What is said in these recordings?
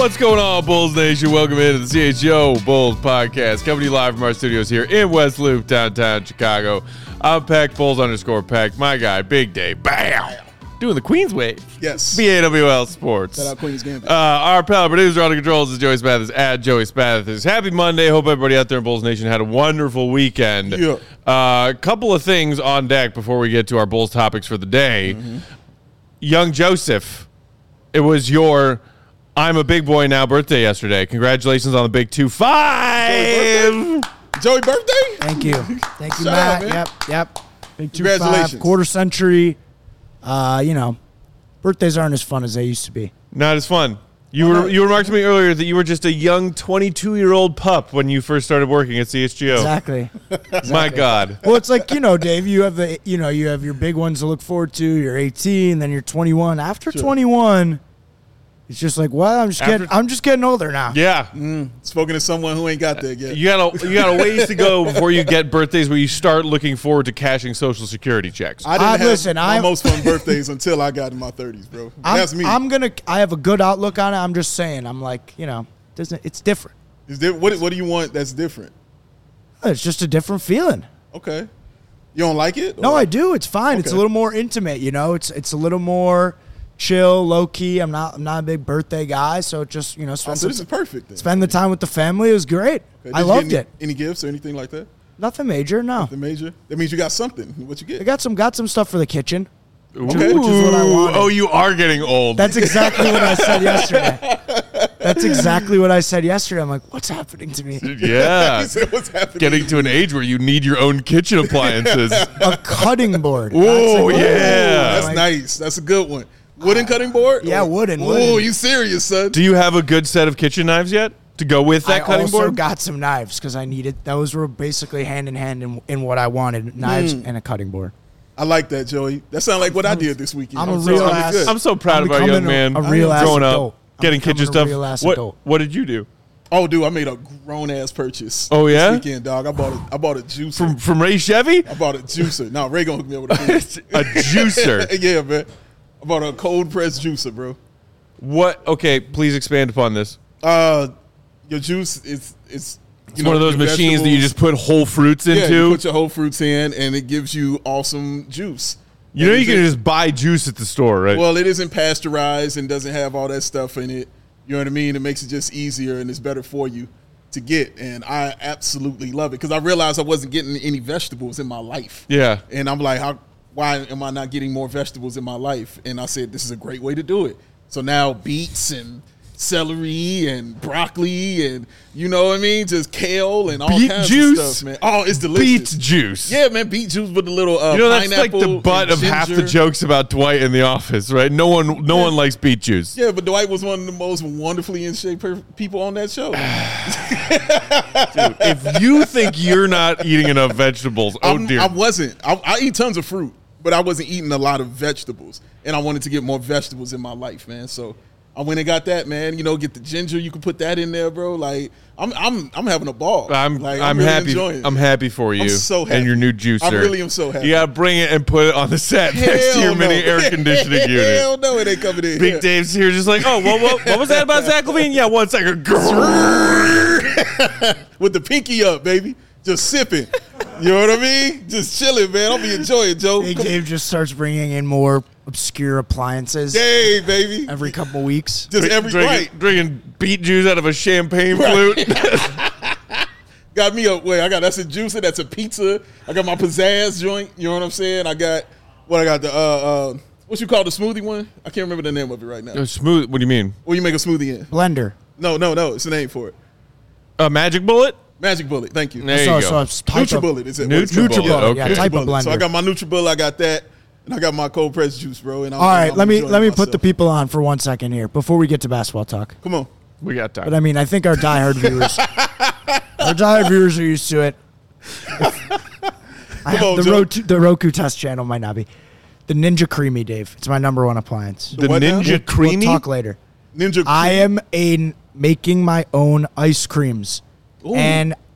What's going on, Bulls Nation? Welcome into the CHO Bulls podcast, coming to you live from our studios here in West Loop, downtown Chicago. I'm Peck, Bulls_Peck. My guy, Big Day, bam, doing the Queens wave. Yes. BAWL Sports. Shout out Queens Gambit. Our pal producer on the controls is Joey Spathis at Joey Spathis. Happy Monday. Hope everybody out there in Bulls Nation had a wonderful weekend. Yeah. A couple of things on deck before we get to our Bulls topics for the day. Young Joseph, it was your I'm a big boy now birthday yesterday. Congratulations on the big 2-5. Joey birthday? Thank you. Thank you, Shout Matt. out, man. Yep. Big 2-5, Congratulations. quarter century. Birthdays aren't as fun as they used to be. Not as fun. You remarked to me earlier that you were just a young 22-year-old pup when you first started working at CHGO. Exactly. My God. Well, it's like, Dave, you have you have your big ones to look forward to. You're 18, then you're 21. After 21, it's just like, well, I'm just getting older now. Yeah. Spoken to someone who ain't got there yet. You got a ways to go before you get birthdays where you start looking forward to cashing Social Security checks. I didn't have my I'm- most fun birthdays until I got in my 30s, bro. That's me. I have a good outlook on it. I'm just saying. I'm like, it's different. What do you want that's different? It's just a different feeling. Okay. You don't like it? No, Or- I do. It's fine. It's a Okay. little more intimate, It's a little more chill, low key. I'm not a big birthday guy, so it just Oh, so this is perfect then. spend the time with the family. It was great. Okay. I Did you loved get it. Any gifts or anything like that? Nothing major, no. The major? That means you got something. What you I get? got some stuff for the kitchen. Okay. Which is what I wanted. Oh, you are getting old. That's exactly what I said yesterday. That's exactly what I said yesterday. I'm like, what's happening to me? Yeah. He said, what's happening? Getting to an age where you need your own kitchen appliances. A cutting board. Whoa, That's yeah. That's nice. That's a good one. Wooden cutting board? Yeah, wooden. Oh, you serious, son? Do you have a good set of kitchen knives yet to go with that I cutting also board? got some knives because I needed. Those were basically hand in hand in what I wanted: knives and a cutting board. I like that, Joey. That sounds like what I did this weekend. I'm a So, real I'm ass- good. I'm so proud I'm of our young becoming man. a real ass growing adult. up, I'm getting kitchen becoming a stuff. real ass adult. What did you do? Oh, dude, I made a grown ass purchase. Oh, yeah? This weekend, dog. I bought a juicer. From Ray Chevy? I bought a juicer. No, Ray gonna hook me up with a A juicer. Yeah, man. I bought a cold press juicer, bro. What? Okay, please expand upon this. Your juice it's It's one of those machines that you just put whole fruits you into. put your whole fruits in, and it gives you awesome juice. You know And you can it's- just buy juice at the store, right? Well, it isn't pasteurized and doesn't have all that stuff in it. You know what I mean? It makes it just easier and it's better for you to get. And I absolutely love it because I realized I wasn't getting any vegetables in my life. Yeah. And I'm like, why am I not getting more vegetables in my life? And I said, this is a great way to do it. So now beets and celery and broccoli and you know what I mean? Just kale and all Beet kinds juice? of stuff, man. Oh, it's delicious. Beet juice. Yeah, man, beet juice with the little You know, that's like pineapple the butt and of half the ginger. jokes about Dwight in The Office, right? No one likes beet juice. Yeah, but Dwight was one of the most wonderfully in shape people on that show. If you think you're not eating enough vegetables, dear. I wasn't. I eat tons of fruit, but I wasn't eating a lot of vegetables, and I wanted to get more vegetables in my life, man. So I went and got that, man. You know, get the ginger. You can put that in there, bro. Like I'm having a ball. I'm really happy. enjoying it. I'm happy for you. I'm so happy. And your new juicer. I really am so happy. You gotta bring it and put it on the set next to your Hell mini no. air conditioning unit. Hell no, it ain't coming in. Big here. Dave's here, just like, oh, what was that about Zach LaVine? Yeah, 1 second. With the pinky up, baby, just sipping. You know what I mean? Just chilling, man. I'll be enjoying, Joe. Big Dave just starts bringing in more obscure appliances Hey, baby. every couple weeks. Just every right. Drinking beet juice out of a champagne flute. Got me up. Wait, that's a juicer. That's a pizza. I got my pizzazz joint. You know what I'm saying? I got the what you call the smoothie one? I can't remember the name of it right now. Smooth. What do you mean? What you make a smoothie in? Blender. No. It's a name for it. A magic bullet? Magic Bullet. Thank you. There you go. it's type of- NutriBullet. Is it? NutriBullet, yeah, okay. type of blender. So I got my NutriBullet. I got that, and I got my cold pressed juice, bro. And All right, let me put the myself. people on for 1 second here before we get to basketball talk. Come on. We got time. But I mean, I think our diehard viewers are used to it. on, Joe. The Roku test channel might not be. The Ninja Creamy, Dave. It's my number one appliance. the what now? Ninja Creamy? We'll talk later. Ninja. I am making my own ice creams. Ooh. And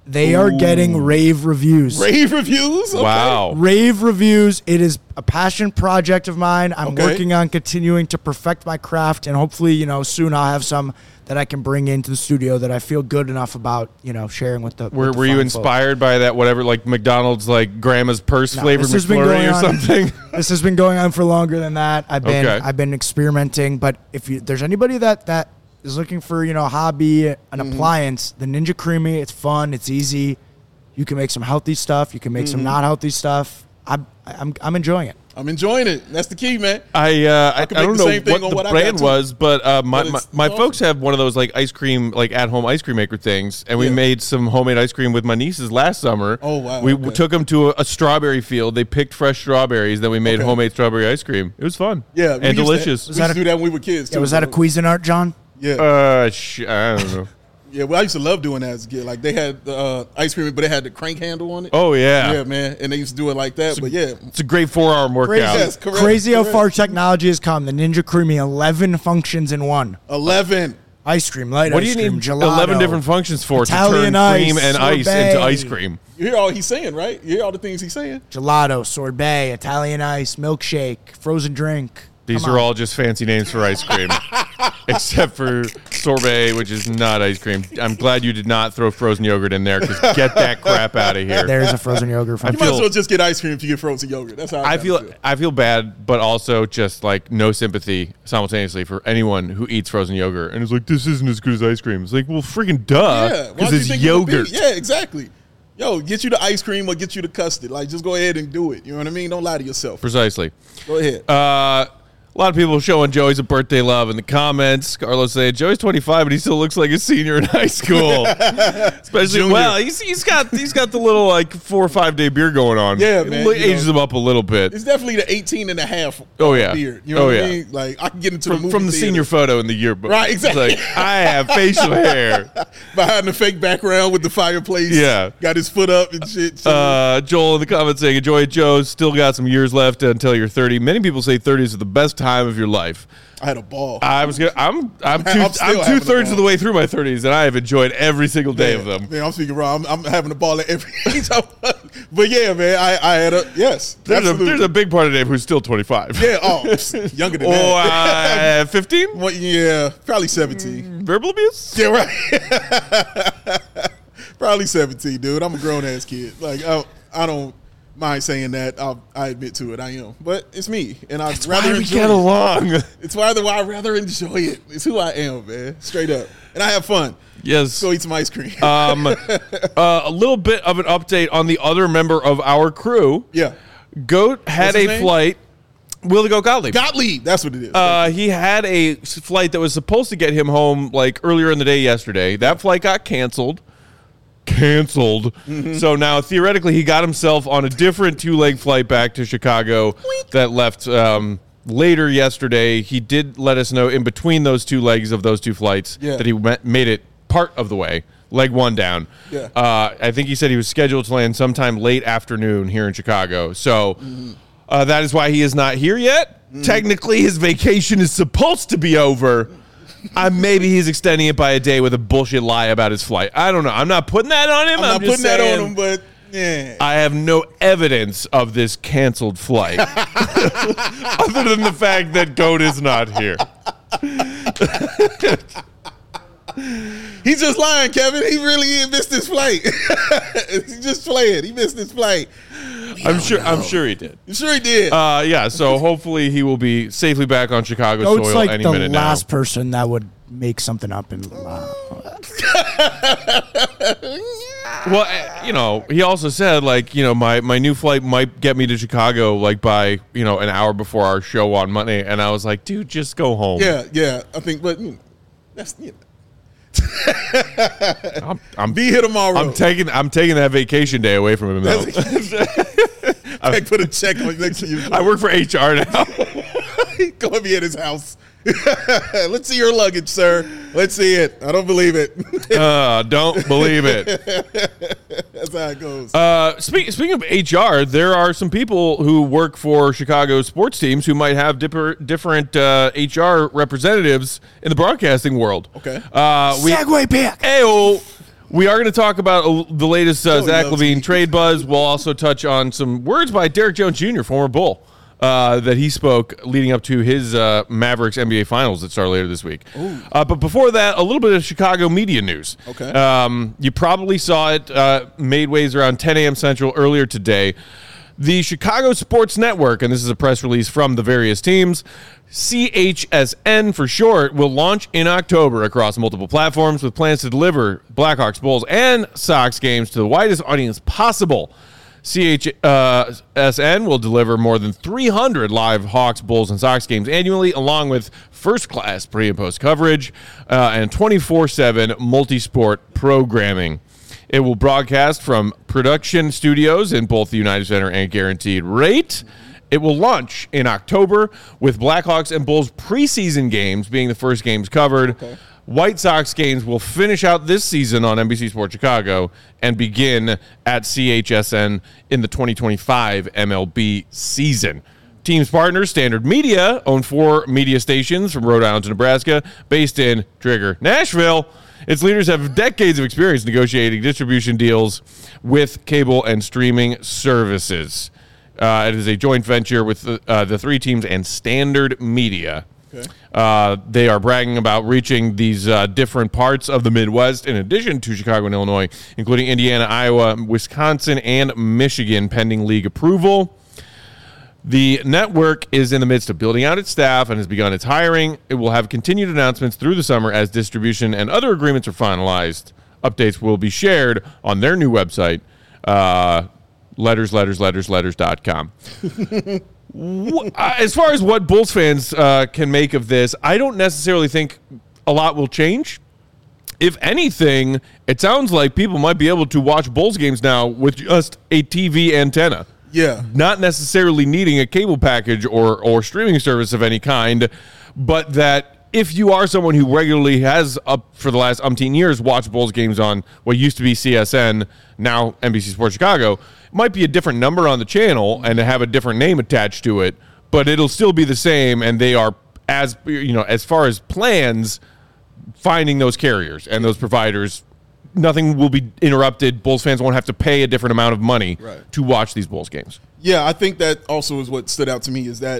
They are getting rave reviews. Rave reviews? Okay. Wow. Rave reviews. It is a passion project of mine. I'm working on continuing to perfect my craft, and hopefully, soon I'll have some that I can bring into the studio that I feel good enough about, sharing with the. Were you inspired by that? Whatever, like McDonald's, like Grandma's Purse flavored McFlurry or something? This has been going on for longer than that. I've been experimenting, but if there's anybody that is looking for a hobby, an appliance, the Ninja Creamy, it's fun, it's easy. You can make some healthy stuff. You can make some not healthy stuff. I'm enjoying it. I'm enjoying it. That's the key, man. I don't know what the brand was, but my folks have one of those like ice cream, like at home ice cream maker things, and we made some homemade ice cream with my nieces last summer. Oh wow! We took them to a strawberry field. They picked fresh strawberries. Then we made homemade strawberry ice cream. It was fun. Yeah, and delicious. We used to do that when we were kids too. Was that a Cuisinart, John? Yeah. I don't know. Yeah, well, I used to love doing that as a kid. Like, they had the ice cream, but it had the crank handle on it. Oh, yeah. Yeah, man. And they used to do it like that, but yeah. It's a great 4-hour workout. Yes, correct. Crazy how far technology has come. The Ninja Creamy, 11 functions in one. 11. Ice cream, light what ice do you cream, need gelato, 11 different functions for Italian to turn cream and ice sorbet. into ice cream? You hear all he's saying, right? You hear all the things he's saying? Gelato, sorbet, Italian ice, milkshake, frozen drink. These are all just fancy names for ice cream. Except for sorbet, which is not ice cream. I'm glad you did not throw frozen yogurt in there, because get that crap out of here. There's a frozen yogurt. You might as well just get ice cream if you get frozen yogurt. That's how I feel. I feel bad, but also just like no sympathy simultaneously for anyone who eats frozen yogurt and is like, this isn't as good as ice cream. It's like, well, freaking duh, because it's yogurt. Yeah, exactly. Yo, get you the ice cream or get you the custard. Like, just go ahead and do it. You know what I mean? Don't lie to yourself. Precisely. Go ahead. A lot of people showing Joey's a birthday love in the comments. Carlos saying Joey's 25, but he still looks like a senior in high school. Especially, Junior. well, he's got the little like 4 or 5 day beard going on. Yeah, man. It ages him up a little bit. It's definitely the 18 and a half beard. You know what I mean? Like, I can get into the movie from the theater. senior photo in the yearbook. Right, exactly. It's like, I have facial hair. Behind the fake background with the fireplace. Yeah. Got his foot up and shit. Joel in the comments saying, enjoy it, Joe. Still got some years left until you're 30. Many people say 30s are the best time of your life. I had a ball. I'm 2/3 of the way through my 30s, and I have enjoyed every single day of them. Man, I'm speaking wrong. I'm having a ball at every age. But yeah, man, I had a yes. There's a big part of Dave who's still 25. Yeah, younger than that. 15? Well, yeah, probably 17. Verbal abuse? Yeah, right. Probably 17, dude. I'm a grown ass kid. Like, I don't mind saying that. I admit to it. I am, but it's me, and I'd rather we enjoy get it. along. It's why I'd rather enjoy it. It's who I am, man. Straight up, and I have fun. Yes. Go eat some ice cream. A little bit of an update on the other member of our crew. Yeah. Goat had What's his a name? flight. Willie Goat Gottlieb. Gottlieb, that's what it is. He had a flight that was supposed to get him home like earlier in the day yesterday. That flight got canceled. Mm-hmm. So now theoretically he got himself on a different 2-leg flight back to Chicago that left later yesterday. He did let us know in between those 2 legs of those 2 flights that he made it part of the way, leg 1 down. Yeah. I think he said he was scheduled to land sometime late afternoon here in Chicago. So that is why he is not here yet. Technically his vacation is supposed to be over. Maybe he's extending it by a day with a bullshit lie about his flight. I don't know. I'm not putting that on him. I'm not just putting that saying, on him, but yeah. I have no evidence of this canceled flight other than the fact that Goat is not here. He's just lying, Kevin. He really missed his flight. He's just playing. He missed his flight. I'm sure he did. You sure he did? Yeah, so hopefully he will be safely back on Chicago Goat's soil like any the minute last now. person that would make something up and Well, he also said, like, my new flight might get me to Chicago, like, by, an hour before our show on Monday. And I was like, dude, just go home. Yeah. I think, but that's, I'm be here tomorrow. I'm taking that vacation day away from him, though. I put a check on next to you. I work for HR now. Go and be at his house. Let's see your luggage, sir. Let's see it. I don't believe it. Don't believe it. That's how it goes. Speaking of HR, there are some people who work for Chicago sports teams who might have different HR representatives in the broadcasting world. Okay. Segway back. Ayo. We are going to talk about the latest Zach LaVine trade buzz. We'll also touch on some words by Derrick Jones Jr., former Bull, that he spoke leading up to his Mavericks NBA Finals that start later this week. But before that, a little bit of Chicago media news. Okay. You probably saw it made waves around 10 a.m. Central earlier today. The Chicago Sports Network, and this is a press release from the various teams, CHSN for short, will launch in October across multiple platforms with plans to deliver Blackhawks, Bulls, and Sox games to the widest audience possible. CHSN will deliver more than 300 live Hawks, Bulls, and Sox games annually, along with first-class pre- and post-coverage and 24/7 multi-sport programming. It will broadcast from production studios in both the United Center and Guaranteed Rate. It will launch in October with Blackhawks and Bulls preseason games being the first games covered. Okay. White Sox games will finish out this season on NBC Sports Chicago and begin at CHSN in the 2025 MLB season. Team's partners, Standard Media, own 4 media stations from Rhode Island to Nebraska, based in Trigger, Nashville. Its leaders have decades of experience negotiating distribution deals with cable and streaming services. It is a joint venture with the 3 teams and Standard Media. Okay. They are bragging about reaching these different parts of the Midwest in addition to Chicago and Illinois, including Indiana, Iowa, Wisconsin, and Michigan, pending league approval. The network is in the midst of building out its staff and has begun its hiring. It will have continued announcements through the summer as distribution and other agreements are finalized. Updates will be shared on their new website, letters.com. As far as what Bulls fans can make of this, I don't necessarily think a lot will change. If anything, it sounds like people might be able to watch Bulls games now with just a TV antenna. Yeah. Not necessarily needing a cable package or streaming service of any kind, but that if you are someone who regularly has, up for the last umpteen years, watched Bulls games on what used to be CSN, now NBC Sports Chicago, it might be a different number on the channel and have a different name attached to it, but it'll still be the same, and they are, as far as plans, finding those carriers and those providers. Nothing will be interrupted. Bulls fans won't have to pay a different amount of money to watch these Bulls games. Yeah, I think that also is what stood out to me is that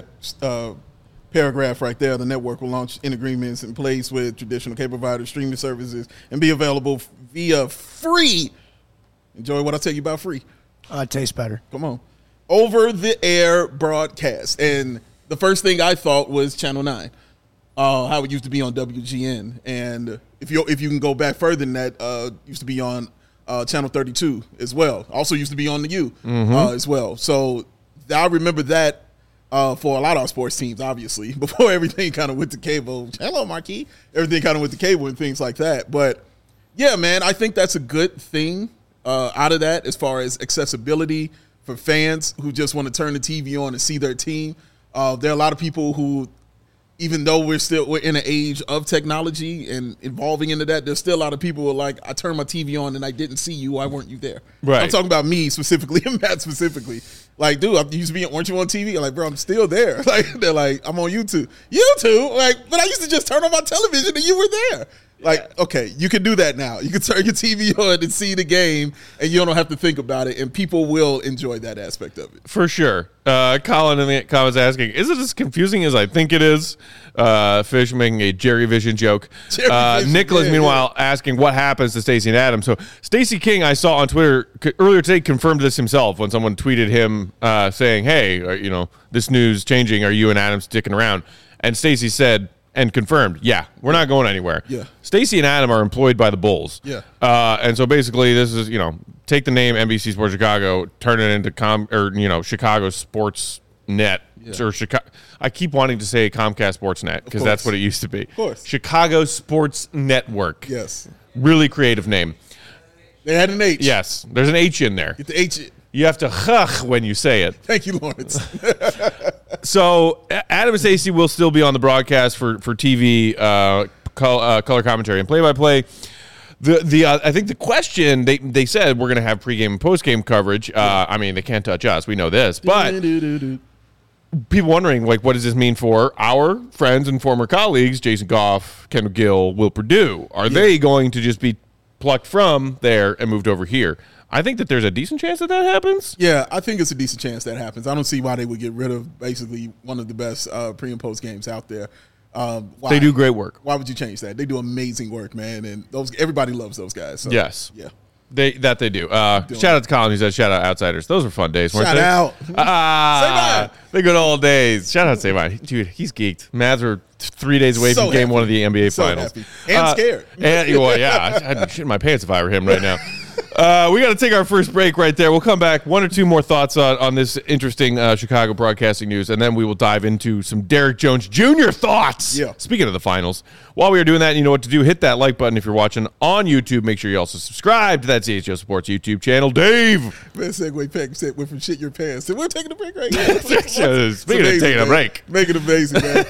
paragraph right there. The network will launch in agreements in place with traditional cable providers, streaming services, and be available via free. Enjoy what I tell you about free. It tastes better. Come on. Over-the-air broadcast. And the first thing I thought was Channel 9. How it used to be on WGN, and if you can go back further than that, used to be on Channel 32 as well. Also used to be on the U as well. So I remember that for a lot of our sports teams, obviously, before everything kind of went to cable. Hello, Marquis. Everything kind of went to cable and things like that. But yeah, man, I think that's a good thing out of that as far as accessibility for fans who just want to turn the TV on and see their team. There are a lot of people who, even though we're in an age of technology and evolving into that, there's still a lot of people who are like, I turned my TV on and I didn't see you. Why weren't you there? Right. I'm talking about me specifically and Matt specifically. Like, dude, I used to be, weren't you on TV? I'm like, bro, I'm still there. Like, they're like, I'm on YouTube. YouTube? Like, but I used to just turn on my television and you were there. Like, okay, you can do that now. You can turn your TV on and see the game, and you don't have to think about it, and people will enjoy that aspect of it. For sure. Colin in the comments asking, is it as confusing as I think it is? Fish making a Jerry Vision joke. Nicholas, meanwhile, asking what happens to Stacey and Adam. So Stacey King, I saw on Twitter earlier today, confirmed this himself when someone tweeted him saying, hey, this news changing. Are you and Adam sticking around? And Stacey said, and confirmed, yeah, we're not going anywhere. Yeah. Stacey and Adam are employed by the Bulls. Yeah. And so basically this is, take the name NBC Sports Chicago, turn it into Chicago Sports Net. Yeah. Or Chicago. I keep wanting to say Comcast Sports Net because that's what it used to be. Of course. Chicago Sports Network. Yes. Really creative name. They had an H. Yes. There's an H in there. Get the H in. You have to huh when you say it. Thank you, Lawrence. So Adam and Stacey will still be on the broadcast for TV, color commentary, and play-by-play. I think the question, they said we're going to have pregame and postgame coverage. I mean, they can't touch us. We know this. But people wondering, like, what does this mean for our friends and former colleagues, Jason Goff, Kendall Gill, Will Perdue? Are they going to just be plucked from there and moved over here. I think that there's a decent chance that happens. Yeah, I think it's a decent chance that happens. I don't see why they would get rid of basically one of the best pre and post games out there. Why? They do great work. Why would you change that? They do amazing work, man, and everybody loves those guys. So, yes, yeah, they do. Shout out to Colin who said shout out Outsiders. Those were fun days, weren't shout they? Out. The good old days. Shout out to Savine. Dude, he's geeked. Mavs were 3 days away from game 1 of the NBA Finals. Happy. And scared. Well, yeah, I'd shit my pants if I were him right now. We got to take our first break right there. We'll come back. 1 or 2 more thoughts on this interesting Chicago broadcasting news, and then we will dive into some Derek Jones Jr. thoughts. Yeah. Speaking of the finals, while we are doing that, you know what to do. Hit that like button if you're watching on YouTube. Make sure you also subscribe to that CHGO Sports YouTube channel. Dave. Man, segue pack went from shit your pants. So we're taking a break right now. Speaking of taking a break. Make it amazing, man.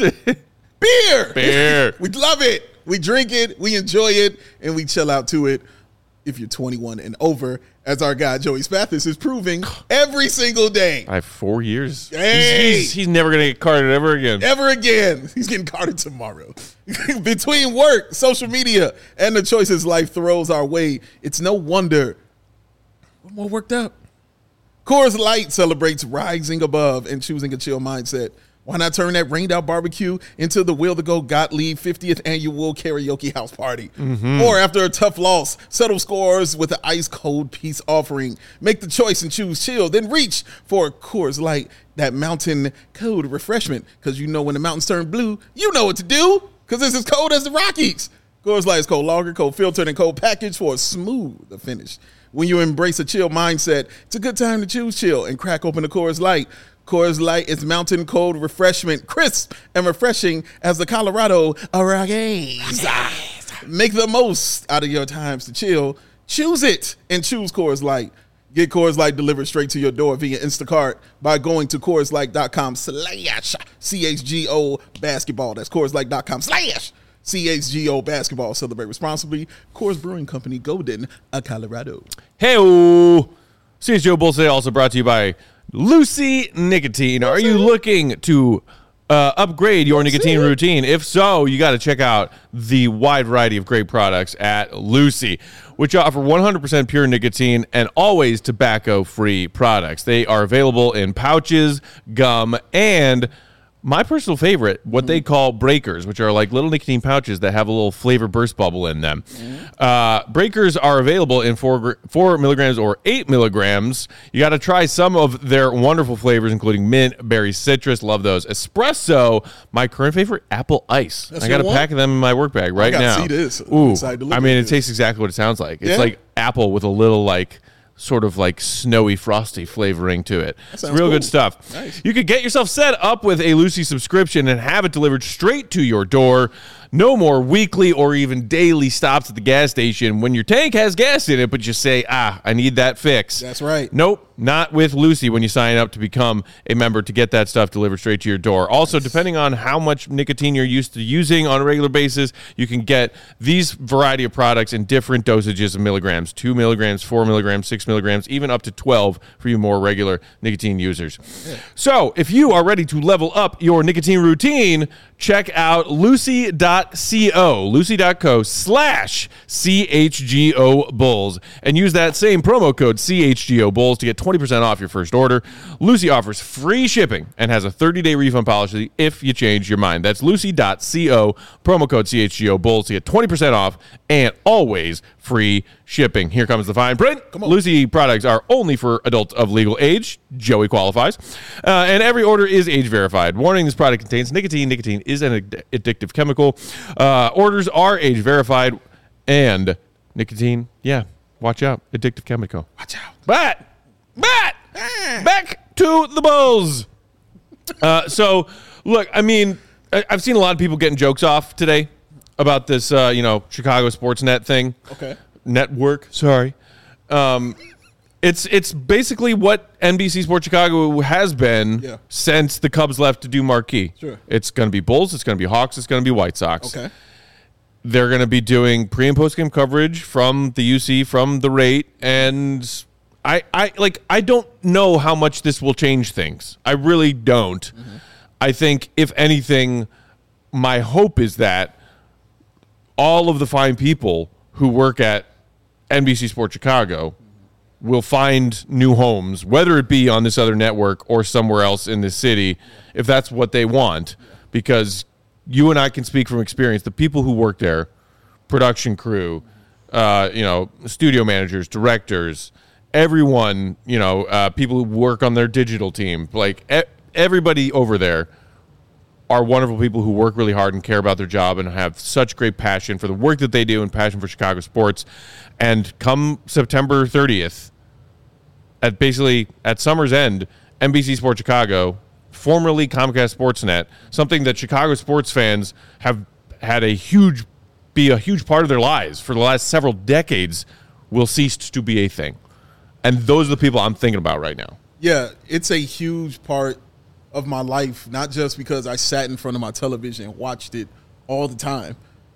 Beer. We love it. We drink it. We enjoy it. And we chill out to it. If you're 21 and over, as our guy Joey Spathis is proving every single day. I have 4 years. Hey! He's never going to get carded ever again. Ever again. He's getting carded tomorrow. Between work, social media, and the choices life throws our way, it's no wonder we're more worked up. Coors Light celebrates rising above and choosing a chill mindset. Why not turn that rained out barbecue into the Will to Go Gottlieb 50th annual karaoke house party? Mm-hmm. Or after a tough loss, settle scores with an ice cold peace offering. Make the choice and choose chill. Then reach for Coors Light, that mountain cold refreshment. Because you know when the mountains turn blue, you know what to do. Because it's as cold as the Rockies. Coors Light is cold lager, cold filtered, and cold packaged for a smooth finish. When you embrace a chill mindset, it's a good time to choose chill and crack open the Coors Light. Coors Light is mountain cold refreshment, crisp and refreshing as the Colorado Rockies. Make the most out of your times to chill. Choose it and choose Coors Light. Get Coors Light delivered straight to your door via Instacart by going to CoorsLight.com/CHGO basketball. That's CoorsLight.com/CHGO basketball. Celebrate responsibly. Coors Brewing Company, Golden, Colorado. Hey-o. CHGO Bulls Today also brought to you by Lucy Nicotine. Are you looking to upgrade your nicotine routine? If so, you got to check out the wide variety of great products at Lucy, which offer 100% pure nicotine and always tobacco-free products. They are available in pouches, gum, and my personal favorite, what they call breakers, which are like little nicotine pouches that have a little flavor burst bubble in them. Breakers are available in 4 milligrams or 8 milligrams. You got to try some of their wonderful flavors, including mint, berry, citrus. Love those. Espresso, my current favorite, apple ice. I got a pack of them in my work bag right now. See this. Ooh, I mean, it tastes exactly what it sounds like. It's like apple with a little sort of like snowy, frosty flavoring to it. It's real good stuff. Nice. You could get yourself set up with a Lucy subscription and have it delivered straight to your door. No more weekly or even daily stops at the gas station when your tank has gas in it, but you say, I need that fix. That's right. Nope, not with Lucy when you sign up to become a member to get that stuff delivered straight to your door. Also, depending on how much nicotine you're used to using on a regular basis, you can get these variety of products in different dosages of milligrams, 2 milligrams, 4 milligrams, 6 milligrams, even up to 12 for you more regular nicotine users. Yeah. So if you are ready to level up your nicotine routine, check out lucy.co, lucy.co/CHGO Bulls, and use that same promo code CHGO Bulls to get 20% off your first order. Lucy offers free shipping and has a 30-day refund policy if you change your mind. That's lucy.co, promo code CHGO Bulls to get 20% off and always free shipping. Here comes the fine print. Lucy products are only for adults of legal age. Joey qualifies. And every order is age verified. Warning, this product contains nicotine. Nicotine is an addictive chemical. Orders are age verified. And nicotine, watch out. Addictive chemical. Watch out. But back to the Bulls. So, look, I mean, I've seen a lot of people getting jokes off today about this, Chicago Sportsnet thing. Okay. Network, sorry. It's basically what NBC Sports Chicago has been since the Cubs left to do Marquee. Sure. It's going to be Bulls, it's going to be Hawks, it's going to be White Sox. Okay. They're going to be doing pre- and post-game coverage from the UC, from the rate, and I don't know how much this will change things. I really don't. Mm-hmm. I think, if anything, my hope is that all of the fine people who work at NBC Sports Chicago will find new homes, whether it be on this other network or somewhere else in this city, if that's what they want. Because you and I can speak from experience. The people who work there, production crew, studio managers, directors, everyone, people who work on their digital team, like everybody over there are wonderful people who work really hard and care about their job and have such great passion for the work that they do and passion for Chicago sports. And come September 30th, at summer's end, NBC Sports Chicago, formerly Comcast Sportsnet, something that Chicago sports fans have had be a huge part of their lives for the last several decades, will cease to be a thing. And those are the people I'm thinking about right now. Yeah, it's a huge part of my life, not just because I sat in front of my television and watched it all the time,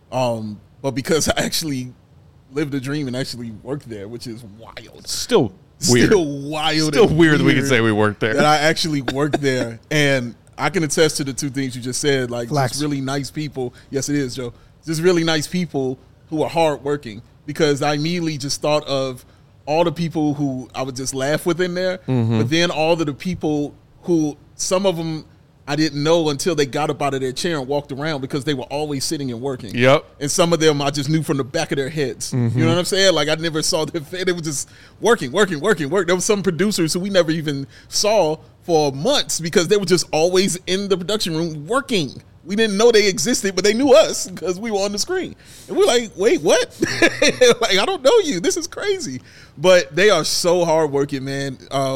but because I actually lived a dream and actually worked there, which is wild. Still weird. Still wild. Still weird that we can say we worked there. That I actually worked there. And I can attest to the two things you just said, like just really nice people. Yes, it is, Joe. Just really nice people who are hardworking, because I immediately just thought of all the people who I would just laugh with in there, but then all of the people who, some of them I didn't know until they got up out of their chair and walked around, because they were always sitting and working. Yep. And some of them I just knew from the back of their heads. You know what I'm saying? Like I never saw them. They were just working. There were some producers who we never even saw for months because they were just always in the production room working. We didn't know they existed, but they knew us because we were on the screen. And we're like, wait, what? Like, I don't know you. This is crazy. But they are so hardworking, man.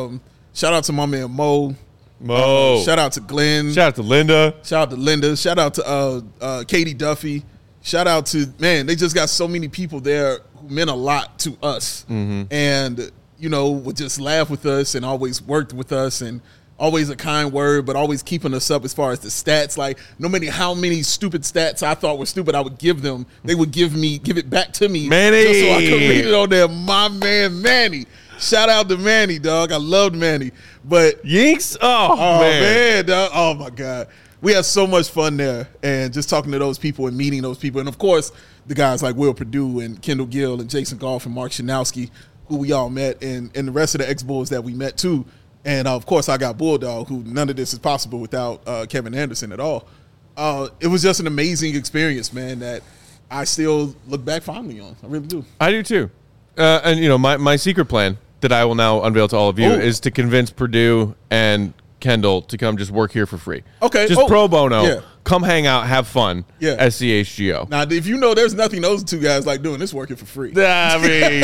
Shout out to my man Mo. Shout out to Glenn. Shout out to Linda. Shout out to Katie Duffy. Shout out to, man, they just got so many people there who meant a lot to us. And, would just laugh with us and always worked with us, and always a kind word, but always keeping us up as far as the stats. Like, no matter how many stupid stats I thought were stupid, I would give them. They would give it back to me. Manny. Just so I could read it on there. My man, Manny. Shout out to Manny, dog. I loved Manny. But Yinks? Oh man, dog. Oh, my God. We had so much fun there, and just talking to those people and meeting those people. And, of course, the guys like Will Perdue and Kendall Gill and Jason Goff and Mark Shanowski, who we all met, and the rest of the ex-Bulls that we met, too. And, of course, I got Bulldog, who none of this is possible without Kevin Anderson at all. It was just an amazing experience, man, that I still look back fondly on. I really do. I do, too. And, my secret plan that I will now unveil to all of you is to convince Perdue and Kendall to come just work here for free. Okay. Just pro bono. Yeah. Come hang out, have fun. Yeah. At CHGO. Now, if you know there's nothing those two guys like doing, this working for free. I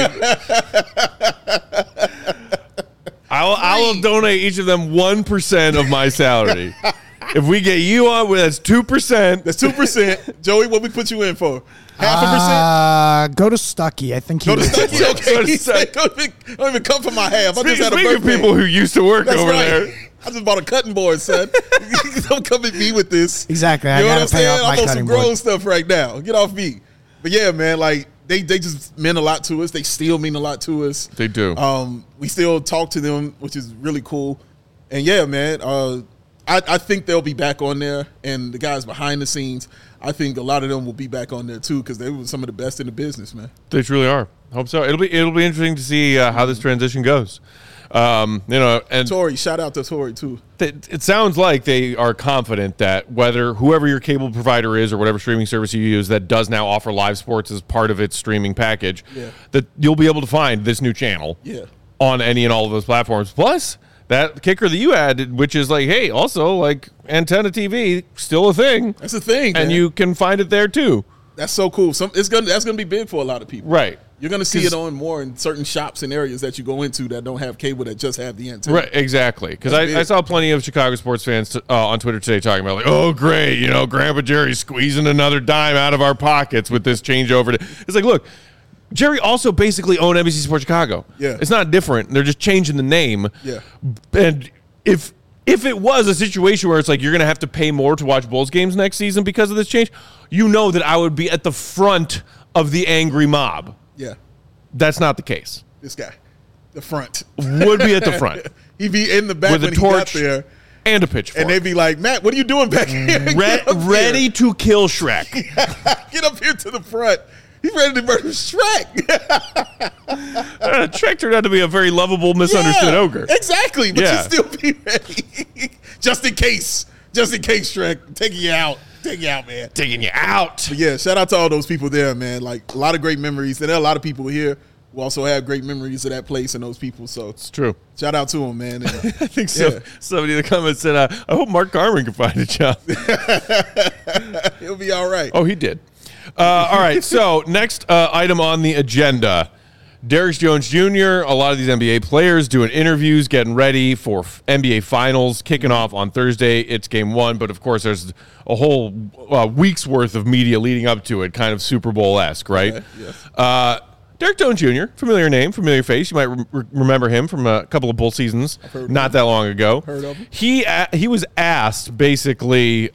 will donate each of them 1% of my salary. If we get you on, that's 2%. That's 2%. Joey, what we put you in for? 0.5%? Go to Stuckey. I think go to Stuckey. Okay. He said, don't even come for my half. I just had a birthday. Speaking of people who used to work over there. I just bought a cutting board, son. Don't come at me with this. Exactly. You know what I'm saying? I'm on some grown stuff right now. Get off me. But yeah, man, like they just meant a lot to us. They still mean a lot to us. They do. We still talk to them, which is really cool. And yeah, man, I think they'll be back on there. And the guys behind the scenes, I think a lot of them will be back on there too, because they were some of the best in the business, man. They truly are. Hope so. It'll be interesting to see how this transition goes. And Tori, shout out to Tori too. It sounds like they are confident that whoever your cable provider is or whatever streaming service you use that does now offer live sports as part of its streaming package, that you'll be able to find this new channel on any and all of those platforms. Plus, that kicker that you added, which is like, hey, also like antenna TV, still a thing. That's a thing, and man. you can find it there too. That's so cool. That's gonna be big for a lot of people, right? You're going to see it on more in certain shops and areas that you go into that don't have cable, that just have the antenna. Right, exactly. Because I saw plenty of Chicago sports fans on Twitter today talking about, like, oh, great, Grandpa Jerry's squeezing another dime out of our pockets with this changeover. It's like, look, Jerry also basically owned NBC Sports Chicago. Yeah. It's not different. They're just changing the name. Yeah. And if it was a situation where it's like you're going to have to pay more to watch Bulls games next season because of this change, that I would be at the front of the angry mob. Yeah. That's not the case. This guy, the front. Would be at the front. He'd be in the back with when a torch he got there. And a pitchfork. And they'd be like, Matt, what are you doing back here? Ready to kill Shrek. Get up here to the front. He's ready to murder Shrek. Shrek turned out to be a very lovable, misunderstood ogre. Exactly, but you still be ready. Just in case, Shrek. Taking you out, man. Taking you out. But yeah, shout out to all those people there, man. Like, a lot of great memories. And there are a lot of people here who also have great memories of that place and those people. So it's true. Shout out to them, man. And, I think so. Somebody in the comments said, I hope Mark Garman can find a job. He'll be all right. Oh, he did. All right, so next item on the agenda. Derrick Jones Jr., a lot of these NBA players doing interviews, getting ready for NBA Finals, kicking off on Thursday. It's game one, but of course there's a whole week's worth of media leading up to it, kind of Super Bowl-esque, right? Okay, yes. Derrick Jones Jr., familiar name, familiar face. You might remember him from a couple of Bull seasons not that long ago. Heard of him. He was asked, basically,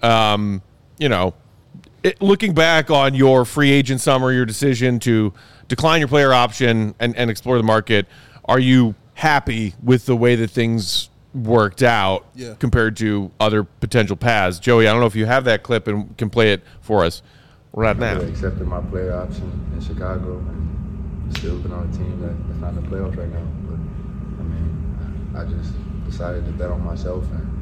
looking back on your free agent summer, your decision to decline your player option and explore the market, are you happy with the way that things worked out compared to other potential paths? Joey, I don't know if you have that clip and can play it for us right now. I accepted my player option in Chicago and still been on a team that's not in the playoffs right now. But, I just decided to bet on myself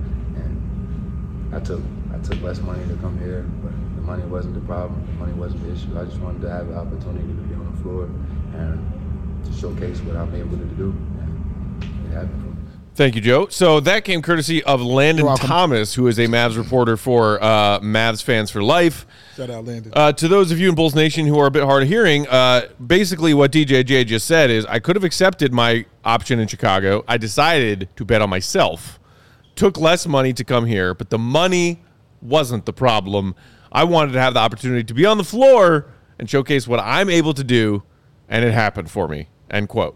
and I took less money to come here, but the money wasn't the problem. The money wasn't the issue. I just wanted to have the opportunity to be on the floor and to showcase what I'm able to do. And it happened for me. Thank you, Joe. So that came courtesy of Landon Thomas, who is a Mavs reporter for Mavs Fans for Life. Shout out, Landon. To those of you in Bulls Nation who are a bit hard of hearing, basically what DJJ just said is I could have accepted my option in Chicago. I decided to bet on myself. Took less money to come here, but the money wasn't the problem. I wanted to have the opportunity to be on the floor and showcase what I'm able to do, and it happened for me, end quote.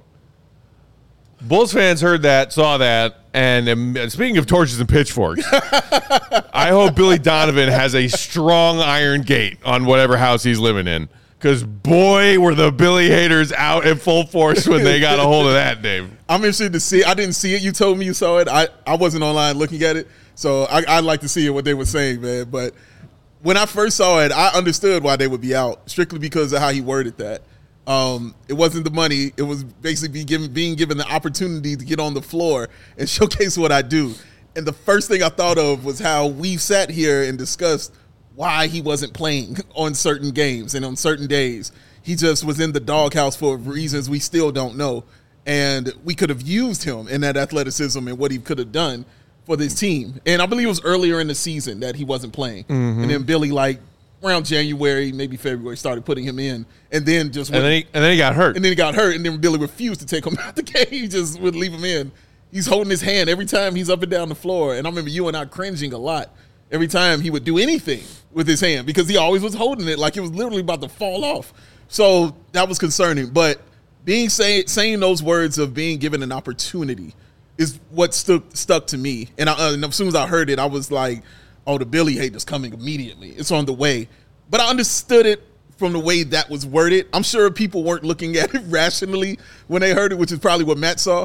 Bulls fans heard that, saw that, and speaking of torches and pitchforks, I hope Billy Donovan has a strong iron gate on whatever house he's living in, because boy, were the Billy haters out in full force when they got a hold of that, Dave. I'm interested to see. I didn't see it. You told me you saw it. I wasn't online looking at it, so I'd like to see what they were saying, man. But when I first saw it, I understood why they would be out, strictly because of how he worded that. It wasn't the money. It was basically being given the opportunity to get on the floor and showcase what I do. And the first thing I thought of was how we sat here and discussed why he wasn't playing on certain games and on certain days. He just was in the doghouse for reasons we still don't know. And we could have used him in that athleticism and what he could have done for this team. And I believe it was earlier in the season that he wasn't playing. Mm-hmm. And then Billy, around January, maybe February, started putting him in. And then just and then he got hurt. And then he got hurt. And then Billy refused to take him out the game. He just would leave him in. He's holding his hand every time he's up and down the floor. And I remember you and I cringing a lot every time he would do anything with his hand because he always was holding it like it was literally about to fall off. So that was concerning. But saying those words of being given an opportunity is what stuck to me. And as soon as I heard it, I was like, oh, the Billy hate is coming immediately. It's on the way. But I understood it from the way that was worded. I'm sure people weren't looking at it rationally when they heard it, which is probably what Matt saw.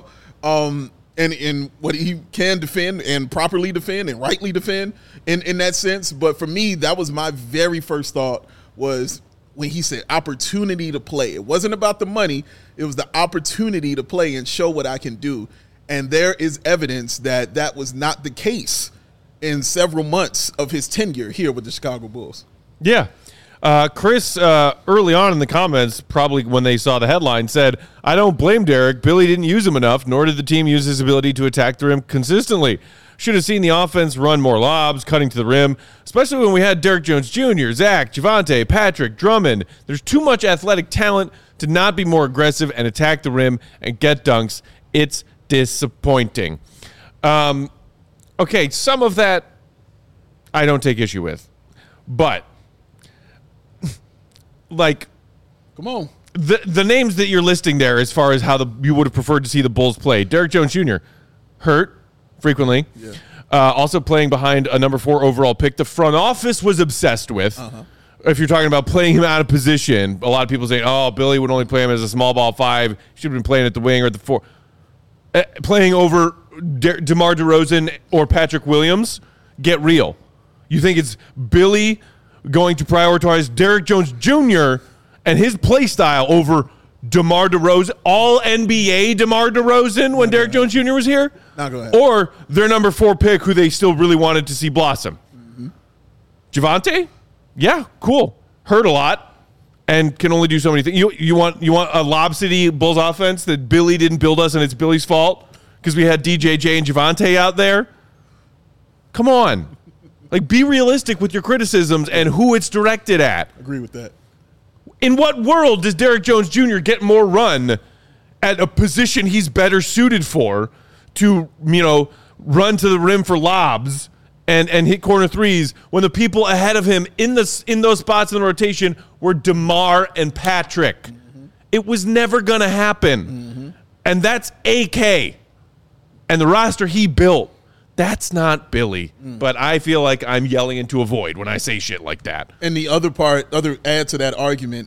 And what he can defend and properly defend and rightly defend in that sense. But for me, that was my very first thought was when he said opportunity to play. It wasn't about the money. It was the opportunity to play and show what I can do. And there is evidence that that was not the case in several months of his tenure here with the Chicago Bulls. Yeah. Chris, early on in the comments, probably when they saw the headline, said, I don't blame Derrick. Billy didn't use him enough, nor did the team use his ability to attack the rim consistently. Should have seen the offense run more lobs, cutting to the rim, especially when we had Derrick Jones Jr., Zach, Javante, Patrick, Drummond. There's too much athletic talent to not be more aggressive and attack the rim and get dunks. It's disappointing. Okay, some of that I don't take issue with. But come on. The names that you're listing there as far as how you would have preferred to see the Bulls play. Derrick Jones Jr., hurt frequently. Yeah. Also playing behind a number 4 overall pick the front office was obsessed with. Uh-huh. If you're talking about playing him out of position, a lot of people say, oh, Billy would only play him as a small ball 5. Should have been playing at the wing or at the 4. Playing over DeMar DeRozan or Patrick Williams, get real. You think it's Billy going to prioritize Derrick Jones Jr. and his play style over DeMar DeRozan, all NBA DeMar DeRozan when Derrick Jones Jr. was here, or their number 4 pick who they still really wanted to see blossom. Javonte, yeah, cool. Hurt a lot and can only do so many things. You want a Lob City Bulls offense that Billy didn't build us and it's Billy's fault because we had DJJ and Javonte out there? Come on. Like, be realistic with your criticisms and who it's directed at. Agree with that. In what world does Derrick Jones Jr. get more run at a position he's better suited for to, run to the rim for lobs and hit corner threes when the people ahead of him in those spots in the rotation were DeMar and Patrick? It was never going to happen. And that's AK. And the roster he built. That's not Billy, but I feel like I'm yelling into a void when I say shit like that. And the other add to that argument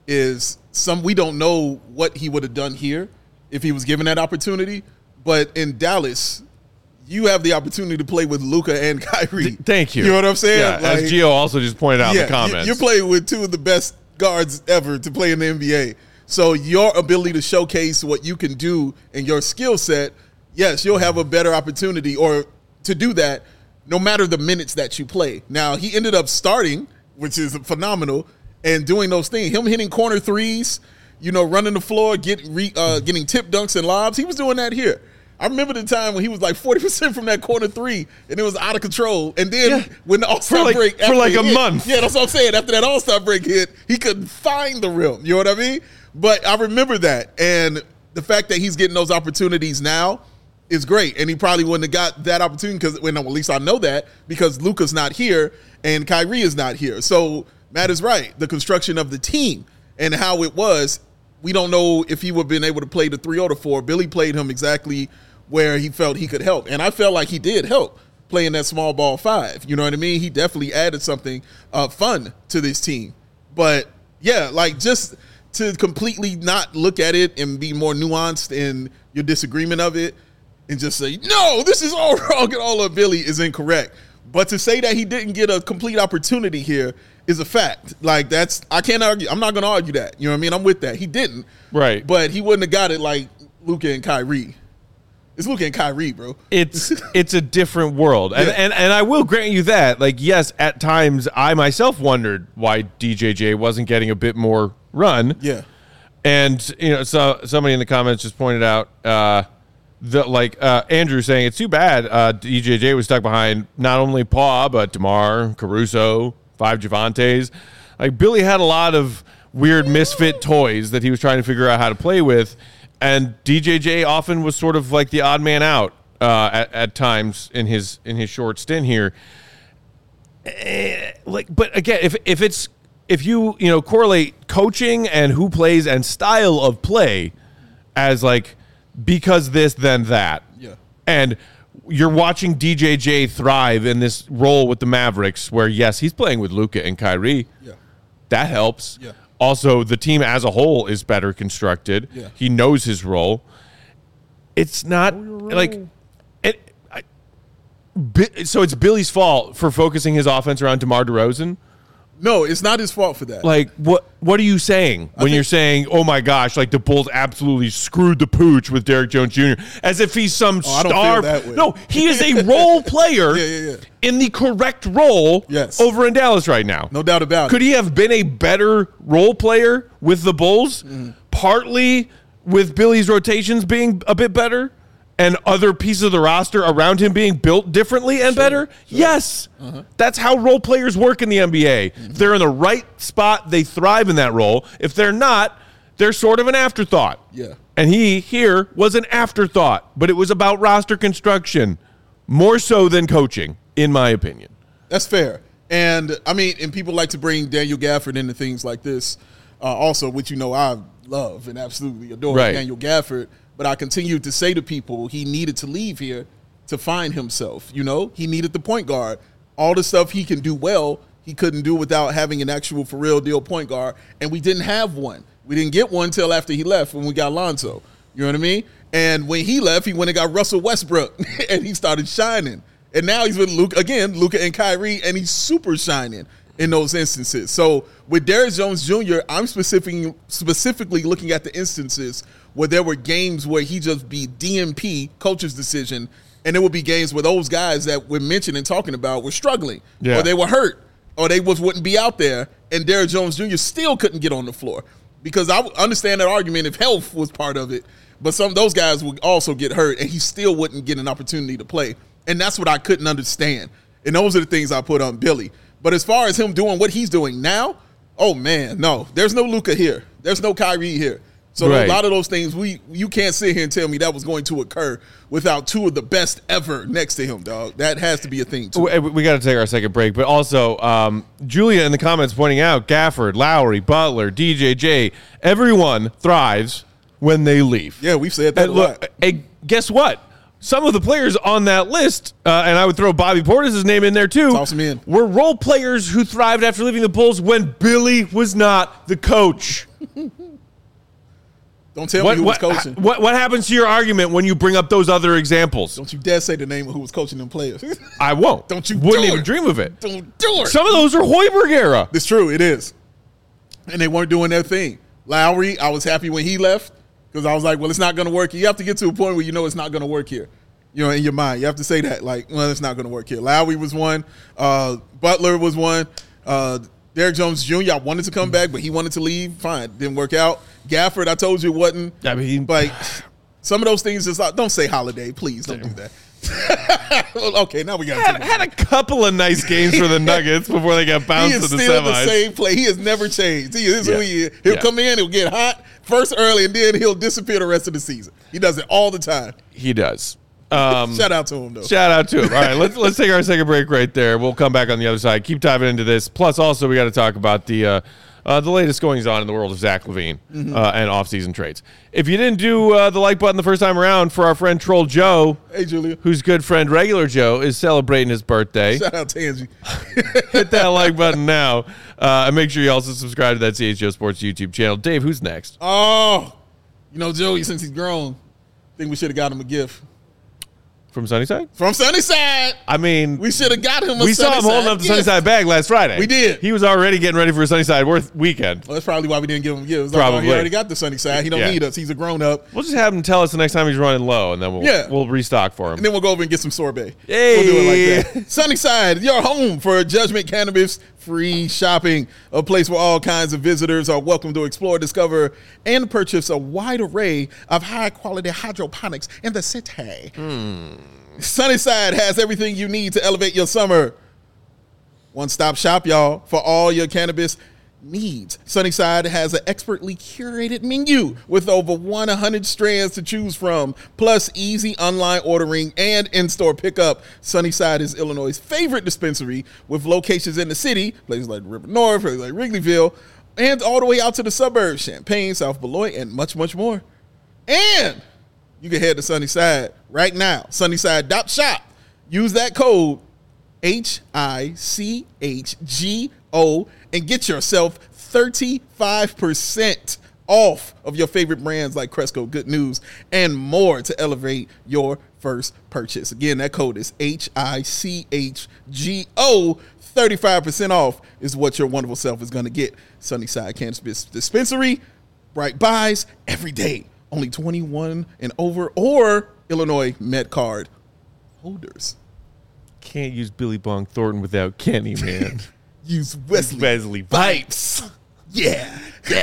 is we don't know what he would have done here if he was given that opportunity. But in Dallas, you have the opportunity to play with Luka and Kyrie. Thank you. You know what I'm saying? Yeah, as Gio also just pointed out in the comments. You're playing with 2 of the best guards ever to play in the NBA. So your ability to showcase what you can do and your skill set, yes, you'll have a better opportunity to do that no matter the minutes that you play. Now, he ended up starting, which is phenomenal, and doing those things. Him hitting corner threes, running the floor, getting tip dunks and lobs. He was doing that here. I remember the time when he was like 40% from that corner 3, and it was out of control. And then when the All-Star break... For like a month. Yeah, that's what I'm saying. After that All-Star break hit, he couldn't find the rim. You know what I mean? But I remember that. And the fact that he's getting those opportunities now is great. And he probably wouldn't have got that opportunity because, at least I know that, because Luka's not here and Kyrie is not here. So Matt is right. The construction of the team and how it was, we don't know if he would have been able to play the 3 or the 4. Billy played him exactly where he felt he could help. And I felt like he did help playing that small ball 5. You know what I mean? He definitely added something fun to this team. But, yeah, like just to completely not look at it and be more nuanced in your disagreement of it, and just say, no, this is all wrong and all of Billy is incorrect. But to say that he didn't get a complete opportunity here is a fact. Like, I can't argue. I'm not going to argue that. You know what I mean? I'm with that. He didn't. Right. But he wouldn't have got it like Luka and Kyrie. It's Luka and Kyrie, bro. It's a different world. And I will grant you that. Like, yes, at times I myself wondered why DJJ wasn't getting a bit more run. Yeah. And, so somebody in the comments just pointed out Andrew saying it's too bad DJJ was stuck behind not only Paul, but DeMar, Caruso, 5 Javantes. Like, Billy had a lot of weird misfit toys that he was trying to figure out how to play with, and DJJ often was sort of like the odd man out at times in his short stint here. But again, if you correlate coaching and who plays and style of play as like, because this, then that. Yeah. And you're watching DJJ thrive in this role with the Mavericks where, yes, he's playing with Luka and Kyrie. Yeah. That helps. Yeah. Also, the team as a whole is better constructed. Yeah. He knows his role. It's not like so it's Billy's fault for focusing his offense around DeMar DeRozan? No, it's not his fault for that. Like, what are you saying when you're saying, oh, my gosh, like the Bulls absolutely screwed the pooch with Derrick Jones Jr. as if he's some star? I don't feel that way. No, he is a role player in the correct role over in Dallas right now. No doubt about it. Could he have been a better role player with the Bulls? Partly with Billy's rotations being a bit better and other pieces of the roster around him being built differently and better? Sure. Yes. That's how role players work in the NBA. If they're in the right spot, they thrive in that role. If they're not, they're sort of an afterthought. Yeah. And he here was an afterthought, but it was about roster construction more so than coaching, in my opinion. That's fair. And, I mean, and people like to bring Daniel Gafford into things like this also, which I love and absolutely adore Daniel Gafford. But I continued to say to people he needed to leave here to find himself. He needed the point guard. All the stuff he can do well, he couldn't do without having an actual for real deal point guard. And we didn't have one. We didn't get one until after he left when we got Lonzo. You know what I mean? And when he left, he went and got Russell Westbrook and he started shining. And now he's with Luka and Kyrie, and he's super shining. in those instances. So with Derrick Jones Jr., I'm specifically looking at the instances where there were games where he just be DNP, coach's decision, and there would be games where those guys that we're mentioning and talking about were struggling, or they were hurt, or they wouldn't be out there, and Derrick Jones Jr. still couldn't get on the floor. Because I understand that argument if health was part of it, but some of those guys would also get hurt, and he still wouldn't get an opportunity to play. And that's what I couldn't understand. And those are the things I put on Billy. But as far as him doing what he's doing now, oh, man, no. There's no Luka here. There's no Kyrie here. So a lot of those things, you can't sit here and tell me that was going to occur without two of the best ever next to him, dog. That has to be a thing, too. We got to take our second break. But also, Julia in the comments pointing out, Gafford, Lowry, Butler, DJJ, everyone thrives when they leave. Yeah, we've said that a lot. Hey, guess what? Some of the players on that list, and I would throw Bobby Portis' name in there too, Toss him in. Were role players who thrived after leaving the Bulls when Billy was not the coach. Don't tell me who was coaching. What happens to your argument when you bring up those other examples? Don't you dare say the name of who was coaching them players. I won't. Don't you Wouldn't do even it. dream of it. Don't do it. Some of those are Hoiberg era. It's true. It is. And they weren't doing their thing. Lowry, I was happy when he left because I was like, well, it's not going to work. You have to get to a point where you know it's not going to work here. You know, in your mind. You have to say that, like, well, it's not going to work here. Lowry was one. Butler was one. Derrick Jones Jr., I wanted to come back, but he wanted to leave. Fine. Didn't work out. Gafford, I told you it wasn't. I mean, like, some of those things, just like, don't say Holiday. Please don't do that. Okay, now we got had a couple of nice games for the Nuggets before they got bounced in the semis. He is still the same play. He has never changed. He is who he is. He'll come in, he'll get hot first early, and then he'll disappear the rest of the season. He does it all the time. He does. Shout out to him, though. Shout out to him. All right, let's take our second break right there. We'll come back on the other side. Keep diving into this. Plus, also, we got to talk about the latest goings-on in the world of Zach LaVine and off-season trades. If you didn't do the like button the first time around for our friend Troll Joe, hey Julia, whose good friend Regular Joe is celebrating his birthday. Shout out to Angie. Hit that like button now, and make sure you also subscribe to that CHGO Sports YouTube channel. Dave, who's next? Oh, you know Joey, since he's grown, I think we should have got him a gift. From Sunnyside? From Sunnyside. I mean, we should have got him a We saw him holding up the Sunnyside bag last Friday. We did. He was already getting ready for a Sunnyside weekend. Well, that's probably why we didn't give him gifts. Probably. He already got the Sunnyside. He don't need us. He's a grown-up. We'll just have him tell us the next time he's running low, and then we'll restock for him. And then we'll go over and get some sorbet. Hey. We'll do it like that. Sunnyside, your home for Judgment Cannabis free shopping, a place where all kinds of visitors are welcome to explore, discover, and purchase a wide array of high-quality hydroponics in the city. Sunnyside has everything you need to elevate your summer. One-stop shop, y'all, for all your cannabis needs. Sunnyside has an expertly curated menu with over 100 strands to choose from, plus easy online ordering and in-store pickup. Sunnyside is Illinois' favorite dispensary with locations in the city, places like River North, places like Wrigleyville, and all the way out to the suburbs, Champaign, South Beloit, and much, much more. And you can head to Sunnyside right now, sunnyside.shop. Use that code HICHGO and get yourself 35% off of your favorite brands like Cresco, Good News, and more to elevate your first purchase. Again, that code is HICHGO. 35% off is what your wonderful self is going to get. Sunnyside Cannabis Dispensary, bright buys every day. Only 21 and over or Illinois Met Card holders. Can't use Billy Bong Thornton without Kenny, man. Use Wesley Pipes. Yeah.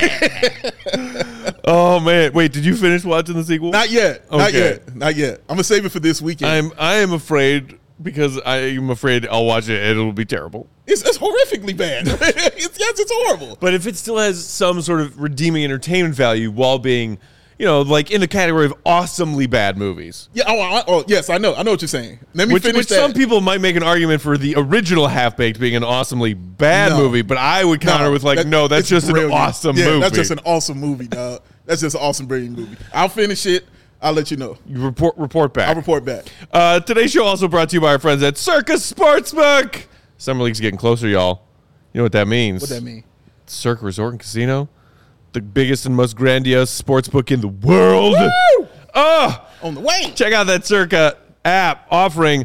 Oh, man. Wait, did you finish watching the sequel? Not yet. Okay. Not yet. I'm going to save it for this weekend. I am afraid because I am afraid I'll watch it and it'll be terrible. It's horrifically bad. It's horrible. But if it still has some sort of redeeming entertainment value while being, like in the category of awesomely bad movies. Yeah. Yes, I know. I know what you're saying. Let me finish that. Some people might make an argument for the original Half-Baked being an awesomely bad movie, but I would counter with that's just brilliant. an awesome movie. That's just an awesome movie, dog. That's just an awesome, brilliant movie. I'll finish it. I'll let you know. You report back. I'll report back. Today's show also brought to you by our friends at Circus Sportsbook. Summer League's getting closer, y'all. You know what that means? What that mean? Circa Resort and Casino. The biggest and most grandiose sports book in the world. Woo! Oh, On the way. Check out that Circa app offering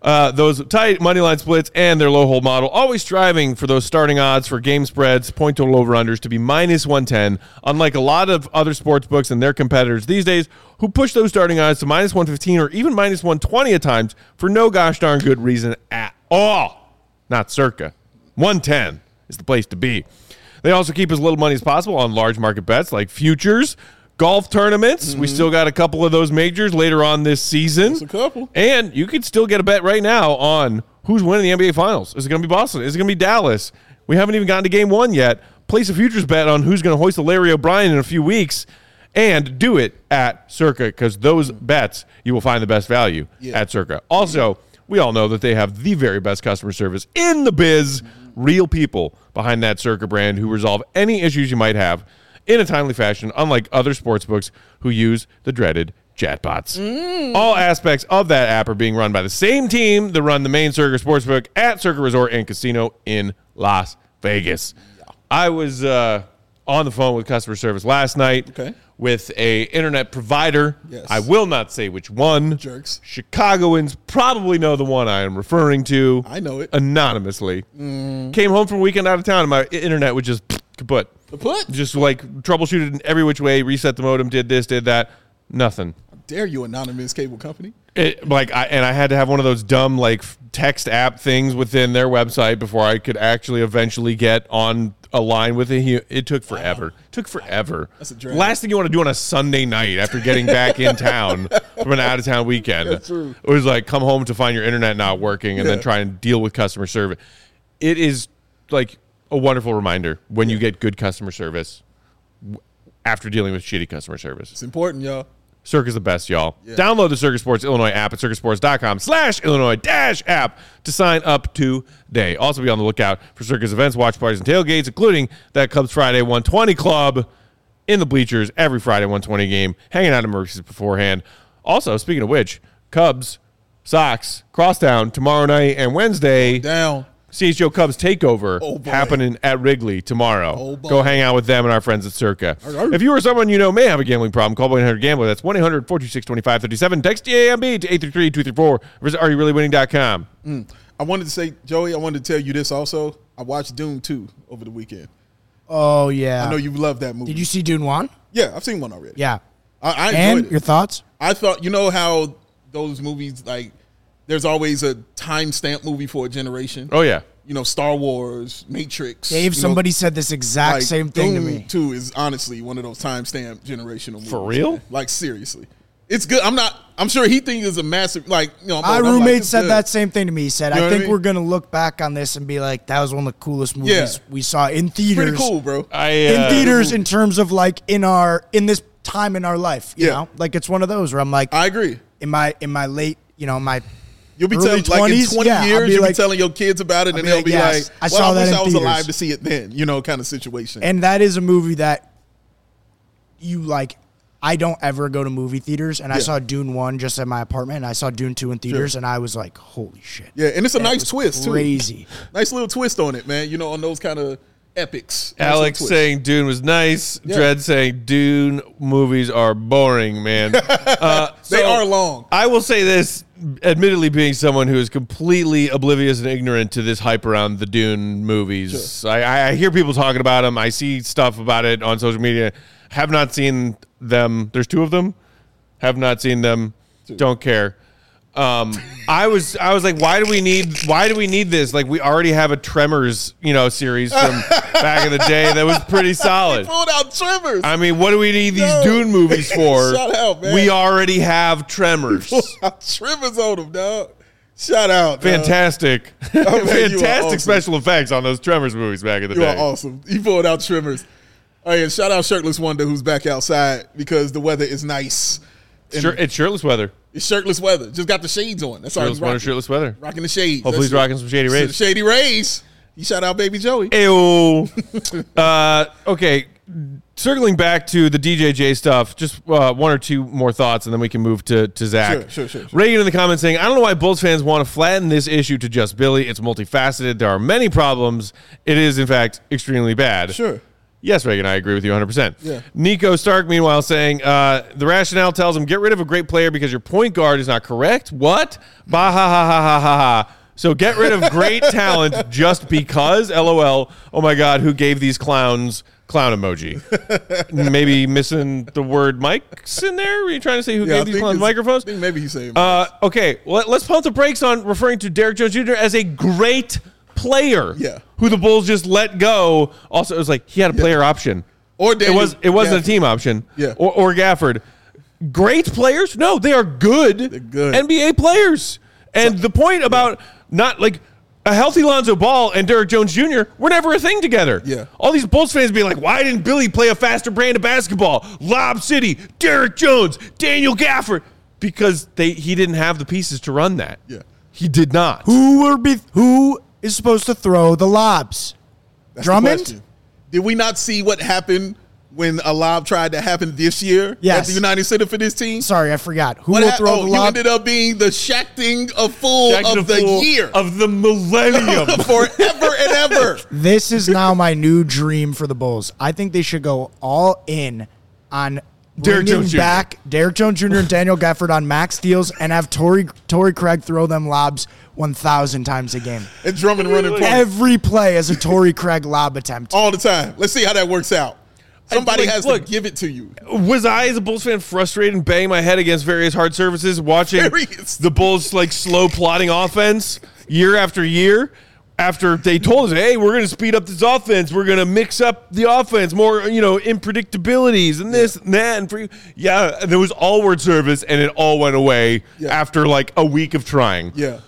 those tight money line splits and their low hold model, always striving for those starting odds for game spreads, point total over-unders to be minus 110, unlike a lot of other sports books and their competitors these days who push those starting odds to minus 115 or even minus 120 at times for no gosh darn good reason at all. Not Circa. 110 is the place to be. They also keep as little money as possible on large market bets like futures, golf tournaments. We still got a couple of those majors later on this season. That's a couple. And you could still get a bet right now on who's winning the NBA Finals. Is it going to be Boston? Is it going to be Dallas? We haven't even gotten to game one yet. Place a futures bet on who's going to hoist the Larry O'Brien in a few weeks. And do it at Circa, because those bets, you will find the best value at Circa. Also, we all know that they have the very best customer service in the biz. Real people behind that Circa brand who resolve any issues you might have in a timely fashion, unlike other sportsbooks who use the dreaded chatbots. All aspects of that app are being run by the same team that run the main Circa Sportsbook at Circa Resort and Casino in Las Vegas. I was on the phone with customer service last night with a internet provider. Yes. I will not say which one. Jerks. Chicagoans probably know the one I am referring to. I know it. Anonymously. Came home from a weekend out of town and my internet would just kaput. Kaput? Just like troubleshooted in every which way, reset the modem, did this, did that. Nothing. How dare you, anonymous cable company? I had to have one of those dumb like text app things within their website before I could actually eventually get on a line with it took forever. Took forever. That's a drag. Last thing you want to do on a Sunday night after getting back in town from an out of town weekend. That's true. It was like come home to find your internet not working and then try and deal with customer service. It is like a wonderful reminder when you get good customer service after dealing with shitty customer service. It's important, y'all. Circa's the best, y'all. Yeah. Download the Circa Sports Illinois app at circasports.com/Illinois-app to sign up today. Also be on the lookout for Circa's events, watch parties, and tailgates, including that Cubs Friday 120 Club in the bleachers every Friday 120 game, hanging out at Mercy's beforehand. Also, speaking of which, Cubs, Sox, Crosstown tomorrow night and Wednesday. Down. CHGO Cubs takeover happening at Wrigley tomorrow. Go hang out with them and our friends at Circa. If you or someone you know may have a gambling problem, call 1-800-GAMBLER. That's 1-800-426-2537. Text GAMB to 833-234. Visit areyourreallywinning.com. I wanted to say, Joey, I wanted to tell you this also. I watched Dune 2 over the weekend. Oh, yeah. I know you love that movie. Did you see Dune 1? Yeah, I've seen one already. Yeah. I enjoyed and it. Your thoughts? I thought, you know how those movies, like, there's always a timestamp movie for a generation. Oh, yeah. You know, Star Wars, Matrix. Dave, somebody said this exact same thing to me. 2 is honestly one of those timestamp generational movies. For real? Man. Like, seriously. It's good. I'm sure he thinks it's a massive, like, you know. My roommate said that same thing to me. He said, you know I think we're going to look back on this and be like, that was one of the coolest movies we saw in theaters. Pretty cool, bro. In theaters in terms of, like, in this time in our life, you know? Like, it's one of those where I'm like. I agree. In my late, you know, my You'll be early telling, 20s, like in 20 years, you'll like, be telling your kids about it, and they'll be like, I saw that wish in I was theaters. alive to see it then, you know, kind of situation. And that is a movie that you like. I don't ever go to movie theaters, and I saw Dune 1 just at my apartment, and I saw Dune 2 in theaters, and I was like, holy shit. Yeah, and it's a nice twist, too. Crazy. Nice little twist on it, man, you know, on those kind of epics. Alex saying Dune was nice. Dredd saying Dune movies are boring, man. They are long. I will say this, admittedly being someone who is completely oblivious and ignorant to this hype around the Dune movies. Sure. I hear people talking about them. I see stuff about it on social media. Have not seen them. There's 2 of them. Have not seen them. 2. Don't care. I was like, why do we need this? Like, we already have a Tremors, you know, series from back in the day that was pretty solid. They pulled out Tremors. I mean, what do we need these Dune movies for? Shout out, man. We already have Tremors. Tremors on them, dog. Shout out. Fantastic. Oh, man, fantastic awesome. Special effects on those Tremors movies back in the day. You are awesome. You pulled out Tremors. Oh, yeah, shout out Shirtless Wonder, who's back outside because the weather is nice. It's shirtless weather. It's shirtless weather. Just got the shades on. That's all he's rocking. Shirtless weather. Rocking the shades. Hopefully he's rocking some Shady Rays. Shady Rays. You shout out Baby Joey. Ew. Okay. Circling back to the DJJ stuff, just 1 or 2 more thoughts, and then we can move to Zach. Sure. Reagan in the comments saying, I don't know why Bulls fans want to flatten this issue to just Billy. It's multifaceted. There are many problems. It is, in fact, extremely bad. Sure. Yes, Reagan, I agree with you 100%. Yeah. Nico Stark, meanwhile, saying the rationale tells him get rid of a great player because your point guard is not correct. What? Bah ha ha ha ha ha ha. So get rid of great talent just because? LOL. Oh my God, who gave these clowns clown emoji? Maybe missing the word mics in there? Were you trying to say who gave these clowns microphones? I think maybe he's saying okay, let's pump the brakes on referring to Derrick Jones Jr. as a great player. Yeah. Who the Bulls just let go. Also, it was like he had a player option. Or Daniel it wasn't Gafford. a team option. Yeah. Or Gafford. Great players? No, they are good, They're good. NBA players. And the point about not like a healthy Lonzo Ball and Derrick Jones Jr. were never a thing together. Yeah. All these Bulls fans be like, why didn't Billy play a faster brand of basketball? Lob City, Derrick Jones, Daniel Gafford. Because he didn't have the pieces to run that. Yeah. He did not. Who is supposed to throw the lobs? That's the Drummond? question. Did we not see what happened when a lob tried to happen this year Yes. at the United Center for this team? Sorry, I forgot. Who will throw the you lob? ended up being the Shaqting a fool Jack of the Fool year. Of the millennium. Forever and ever. This is now my new dream for the Bulls. I think they should go all in on Derrick bringing Jones Jr. back Derrick Jones Jr. and Daniel Gafford on max deals and have Torrey Craig throw them lobs 1,000 times a game. And Drummond running point Every play is a Torrey Craig lob attempt. all the time. Let's see how that works out. Somebody Like, has look, to give it to you. Was I, as a Bulls fan, frustrated and banging my head against various hard surfaces watching Various. the Bulls like slow plotting offense year after year? After they told us, hey, we're going to speed up this offense, we're going to mix up the offense, more unpredictabilities and this and that, and there was all word service, and it all went away after like a week of trying. Yeah.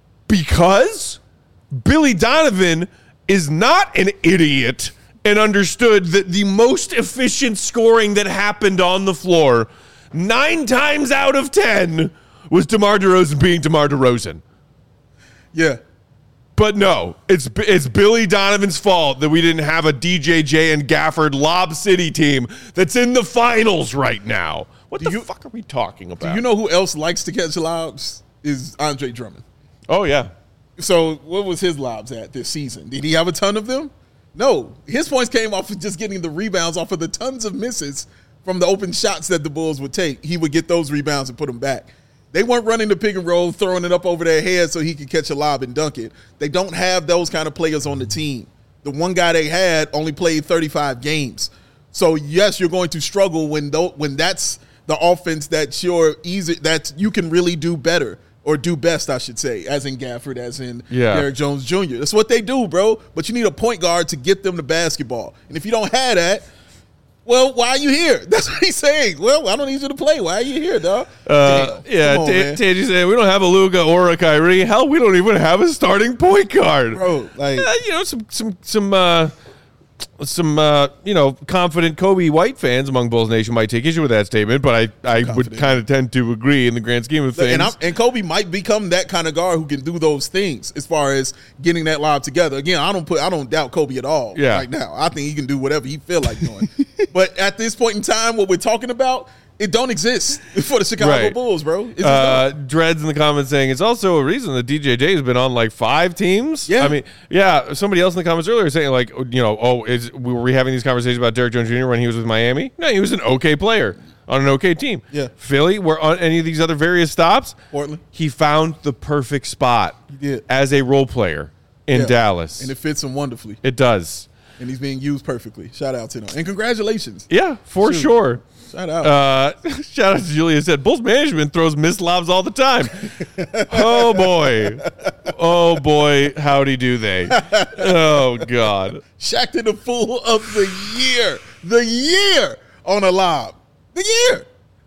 Because Billy Donovan is not an idiot and understood that the most efficient scoring that happened on the floor 9 times out of 10 was DeMar DeRozan being DeMar DeRozan. Yeah. But no, it's Billy Donovan's fault that we didn't have a DJJ and Gafford Lob City team that's in the finals right now. What the fuck are we talking about? Do you know who else likes to catch lobs? Is Andre Drummond. Oh, yeah. So what was his lobs at this season? Did he have a ton of them? No. His points came off of just getting the rebounds off of the tons of misses from the open shots that the Bulls would take. He would get those rebounds and put them back. They weren't running the pick and roll, throwing it up over their head so he could catch a lob and dunk it. They don't have those kind of players on the team. The one guy they had only played 35 games. So, yes, you're going to struggle when that's the offense that you can really do better. Or do best, I should say, as in Gafford, as in Derrick Jones Jr. That's what they do, bro. But you need a point guard to get them the basketball. And if you don't have that, well, why are you here? That's what he's saying. Well, I don't need you to play. Why are you here, dog? Tangy said, we don't have a Luka or a Kyrie. Hell, we don't even have a starting point guard. Bro, like... Some confident Kobe White fans among Bulls Nation might take issue with that statement, but I would kind of tend to agree in the grand scheme of things. And Kobe might become that kind of guard who can do those things as far as getting that lob together. Again, I don't doubt Kobe at all right now. I think he can do whatever he feel like doing. But at this point in time, what we're talking about, it don't exist for the Chicago Bulls, bro. Dreads in the comments saying it's also a reason that DJJ has been on like 5 teams. Yeah. I mean, somebody else in the comments earlier saying like, were we having these conversations about Derrick Jones Jr. when he was with Miami? No, he was an okay player on an okay team. Yeah. Philly, were on any of these other various stops. Portland. He found the perfect spot as a role player in Dallas. And it fits him wonderfully. It does. And he's being used perfectly. Shout out to him. And congratulations. Yeah, for sure. Shout out. Shout out to Julia said, Bulls management throws missed lobs all the time. Oh, boy. Oh, boy. Howdy do they. Oh, God. Shaqtin' the fool of the year. The year on a lob. The year.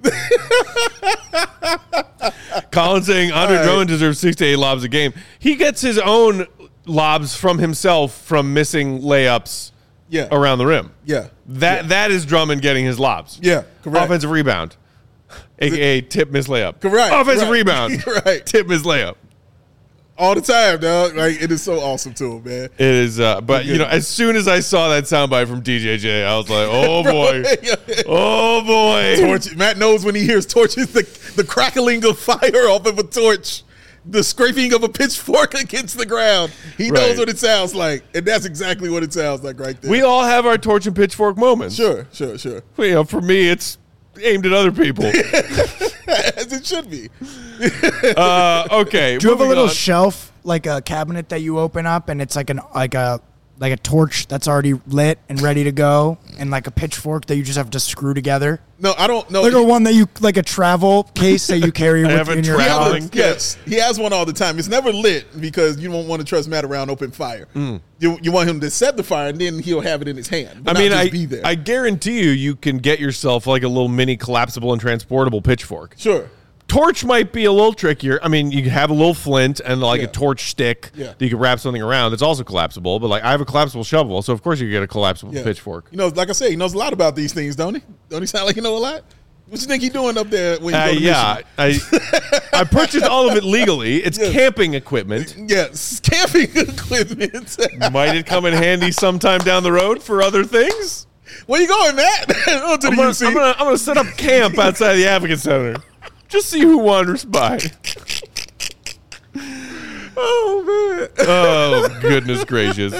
Colin saying Andre Drummond deserves 6 to 8 lobs a game. He gets his own lobs from himself from missing layups around the rim. Yeah. That is Drummond getting his lobs. Yeah, correct. Offensive rebound, a.k.a. tip miss layup. Correct. Offensive rebound, right. tip miss layup. All the time, dog. Like, it is so awesome to him, man. It is, but as soon as I saw that soundbite from DJJ, I was like, "Oh boy, oh boy!" Torch. Matt knows when he hears torches, the crackling of fire off of a torch. the scraping of a pitchfork against the ground. He knows what it sounds like, and that's exactly what it sounds like right there. We all have our torch and pitchfork moments. Sure. For me, it's aimed at other people. As it should be. Okay. Do you have a little shelf, like a cabinet that you open up, and it's like a torch that's already lit and ready to go, and like a pitchfork that you just have to screw together? No, I don't know. Like a one that you, like a travel case that you carry with you in your traveling. Yes, he has one all the time. It's never lit because you don't want to trust Matt around open fire. You want him to set the fire, and then he'll have it in his hand. I guarantee you can get yourself like a little mini collapsible and transportable pitchfork. Sure. Torch might be a little trickier. I mean, you can have a little flint and like a torch stick that you can wrap something around that's also collapsible. But like, I have a collapsible shovel, so of course you can get a collapsible pitchfork. You know, like I said, he knows a lot about these things, don't he? Don't he sound like he know a lot? What you think he's doing up there when you go to Michigan? I purchased all of it legally. It's camping equipment. Yes, camping equipment. Might it come in handy sometime down the road for other things? Where you going, Matt? I'm gonna set up camp outside the Advocate Center. Just see who wanders by. Oh, man. Oh, goodness gracious.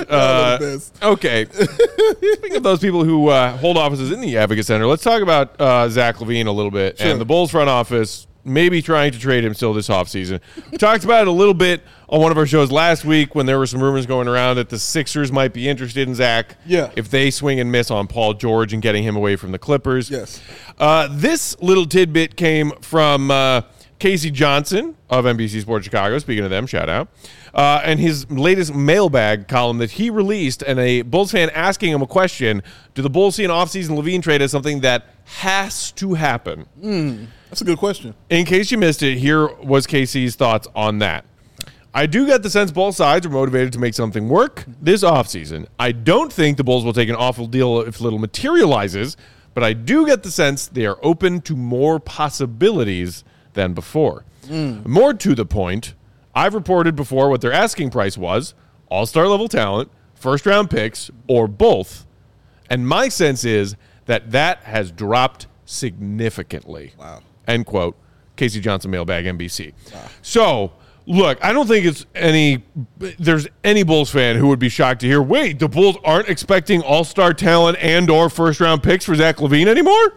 Okay. Speaking of those people who hold offices in the Advocate Center, let's talk about Zach LaVine a little bit and the Bulls front office maybe trying to trade him still this offseason. We talked about it a little bit on one of our shows last week when there were some rumors going around that the Sixers might be interested in Zach if they swing and miss on Paul George and getting him away from the Clippers. Yes. This little tidbit came from Casey Johnson of NBC Sports Chicago, speaking of them, shout out, and his latest mailbag column that he released, and a Bulls fan asking him a question, do the Bulls see an offseason LaVine trade as something that has to happen? That's a good question. In case you missed it, here was Casey's thoughts on that. I do get the sense both sides are motivated to make something work this offseason. I don't think the Bulls will take an awful deal if little materializes, but I do get the sense they are open to more possibilities than before. More to the point, I've reported before what their asking price was, all-star level talent, first-round picks, or both. And my sense is that has dropped significantly. Wow. End quote. Casey Johnson, Mailbag, NBC. Wow. So, look, I don't think there's any Bulls fan who would be shocked to hear, wait, the Bulls aren't expecting all-star talent and or first-round picks for Zach LaVine anymore?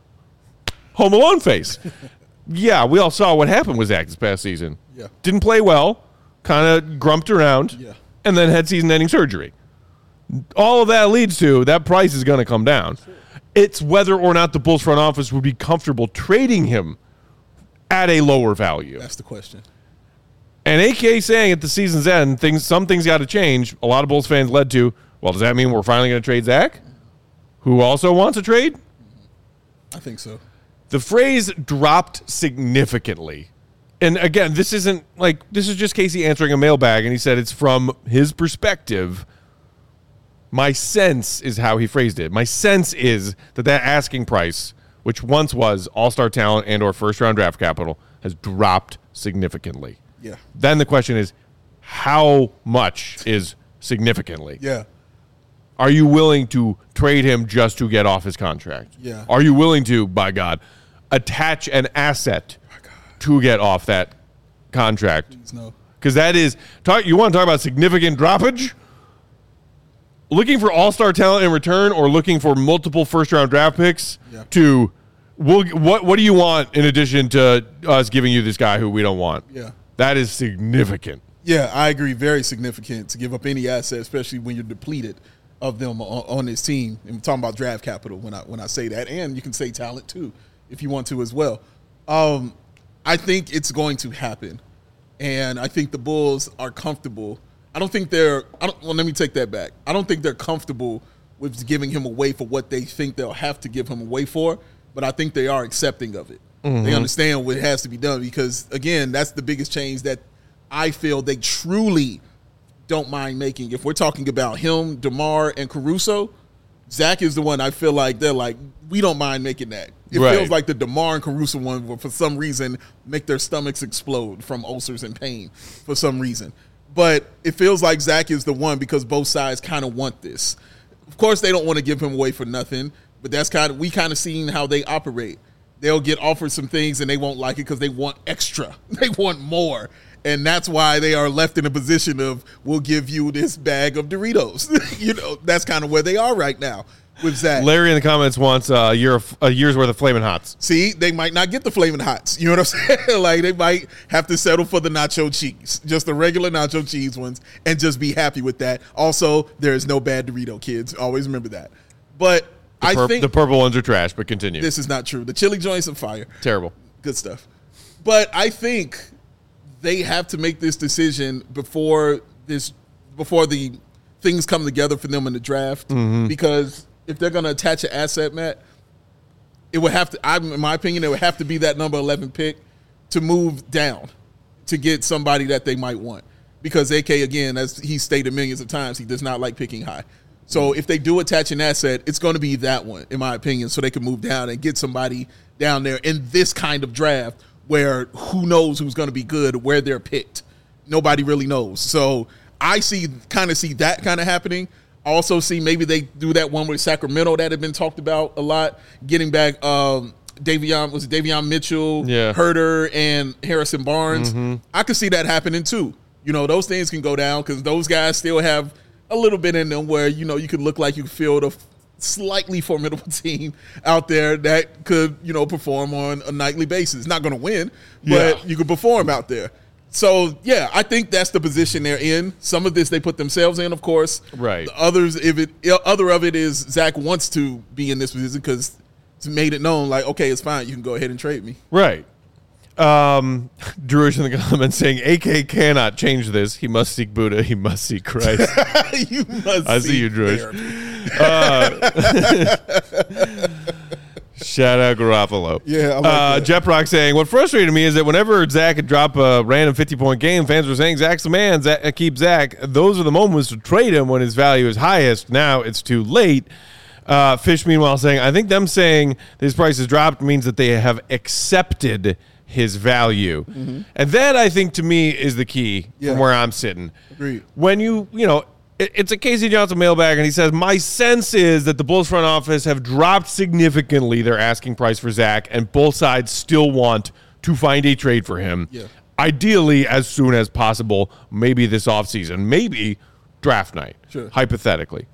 Home Alone face. Yeah, we all saw what happened with Zach this past season. Yeah. Didn't play well, kind of grumped around, and then had season-ending surgery. All of that leads to that price is going to come down. Sure. It's whether or not the Bulls front office would be comfortable trading him at a lower value. That's the question. And AK saying at the season's end, some things got to change. A lot of Bulls fans led to, well, does that mean we're finally going to trade Zach? Who also wants a trade? I think so. The phrase dropped significantly. And again, this is just Casey answering a mailbag, and he said it's from his perspective. My sense is how he phrased it. My sense is that asking price, which once was all-star talent and or first-round draft capital, has dropped significantly. Yeah. Then the question is, how much is significantly? Yeah. Are you willing to trade him just to get off his contract? Yeah. Are you willing to, by God, attach an asset to get off that contract? Please no. Because that is, you want to talk about significant droppage? Looking for all-star talent in return or looking for multiple first-round draft picks to what do you want in addition to us giving you this guy who we don't want? Yeah. That is significant. Yeah, I agree. Very significant to give up any asset, especially when you're depleted of them on this team. And I'm talking about draft capital when I say that. And you can say talent too if you want to as well. I think it's going to happen. And I think the Bulls are comfortable. Well, let me take that back. I don't think they're comfortable with giving him away for what they think they'll have to give him away for, but I think they are accepting of it. Mm-hmm. They understand what has to be done because, again, that's the biggest change that I feel they truly don't mind making. If we're talking about him, DeMar, and Caruso, Zach is the one I feel like they're like, we don't mind making that. It feels like the DeMar and Caruso one will, for some reason, make their stomachs explode from ulcers and pain for some reason. But it feels like Zach is the one because both sides kind of want this. Of course, they don't want to give him away for nothing, but we kind of seen how they operate. they'll get offered some things and they won't like it because they want extra. They want more. And that's why they are left in a position of, we'll give you this bag of Doritos. That's kind of where they are right now with Zach. Larry in the comments wants a year's worth of Flamin' Hots. See, they might not get the Flamin' Hots. You know what I'm saying? Like, they might have to settle for the nacho cheese, just the regular nacho cheese ones, and just be happy with that. Also, there is no bad Dorito, kids. Always remember that. But I think the purple ones are trash, but continue. This is not true. The chili joints are fire. Terrible. Good stuff. But I think they have to make this decision before the things come together for them in the draft, because if they're going to attach an asset, Matt, it would have to, in my opinion, it would have to be that number 11 pick to move down to get somebody that they might want. Because AK, again, as he stated millions of times, he does not like picking high. So if they do attach an asset, it's going to be that one, in my opinion, so they can move down and get somebody down there in this kind of draft where who knows who's going to be good, where they're picked. Nobody really knows. So I see that kind of happening. I also see maybe they do that one with Sacramento that had been talked about a lot, getting back Davion Mitchell, Herter, and Harrison Barnes. I could see that happening too. Those things can go down because those guys still have a little bit in them where, you could look like you field a slightly formidable team out there that could, perform on a nightly basis. Not going to win, but you could perform out there. So, yeah, I think that's the position they're in. Some of this they put themselves in, of course. Right. The others, other of it is Zach wants to be in this position because it's made it known, like, okay, it's fine. You can go ahead and trade me. Right. Drew is in the comments saying, AK cannot change this. He must seek Buddha. He must seek Christ. You must I see you, Drew. Shout out Garoppolo. Yeah, I like that. Jeff Rock saying, what frustrated me is that whenever Zach could drop a random 50-point game, fans were saying, Zach's the man, keep Zach. Those are the moments to trade him when his value is highest. Now it's too late. Fish, meanwhile, saying, I think them saying his price has dropped means that they have accepted his value. And that, I think, to me, is the key from where I'm sitting. Agreed. When it's a Casey Johnson mailbag, and he says, my sense is that the Bulls front office have dropped significantly their asking price for Zach, and both sides still want to find a trade for him. Yeah. Ideally, as soon as possible, maybe this offseason, maybe draft night, hypothetically.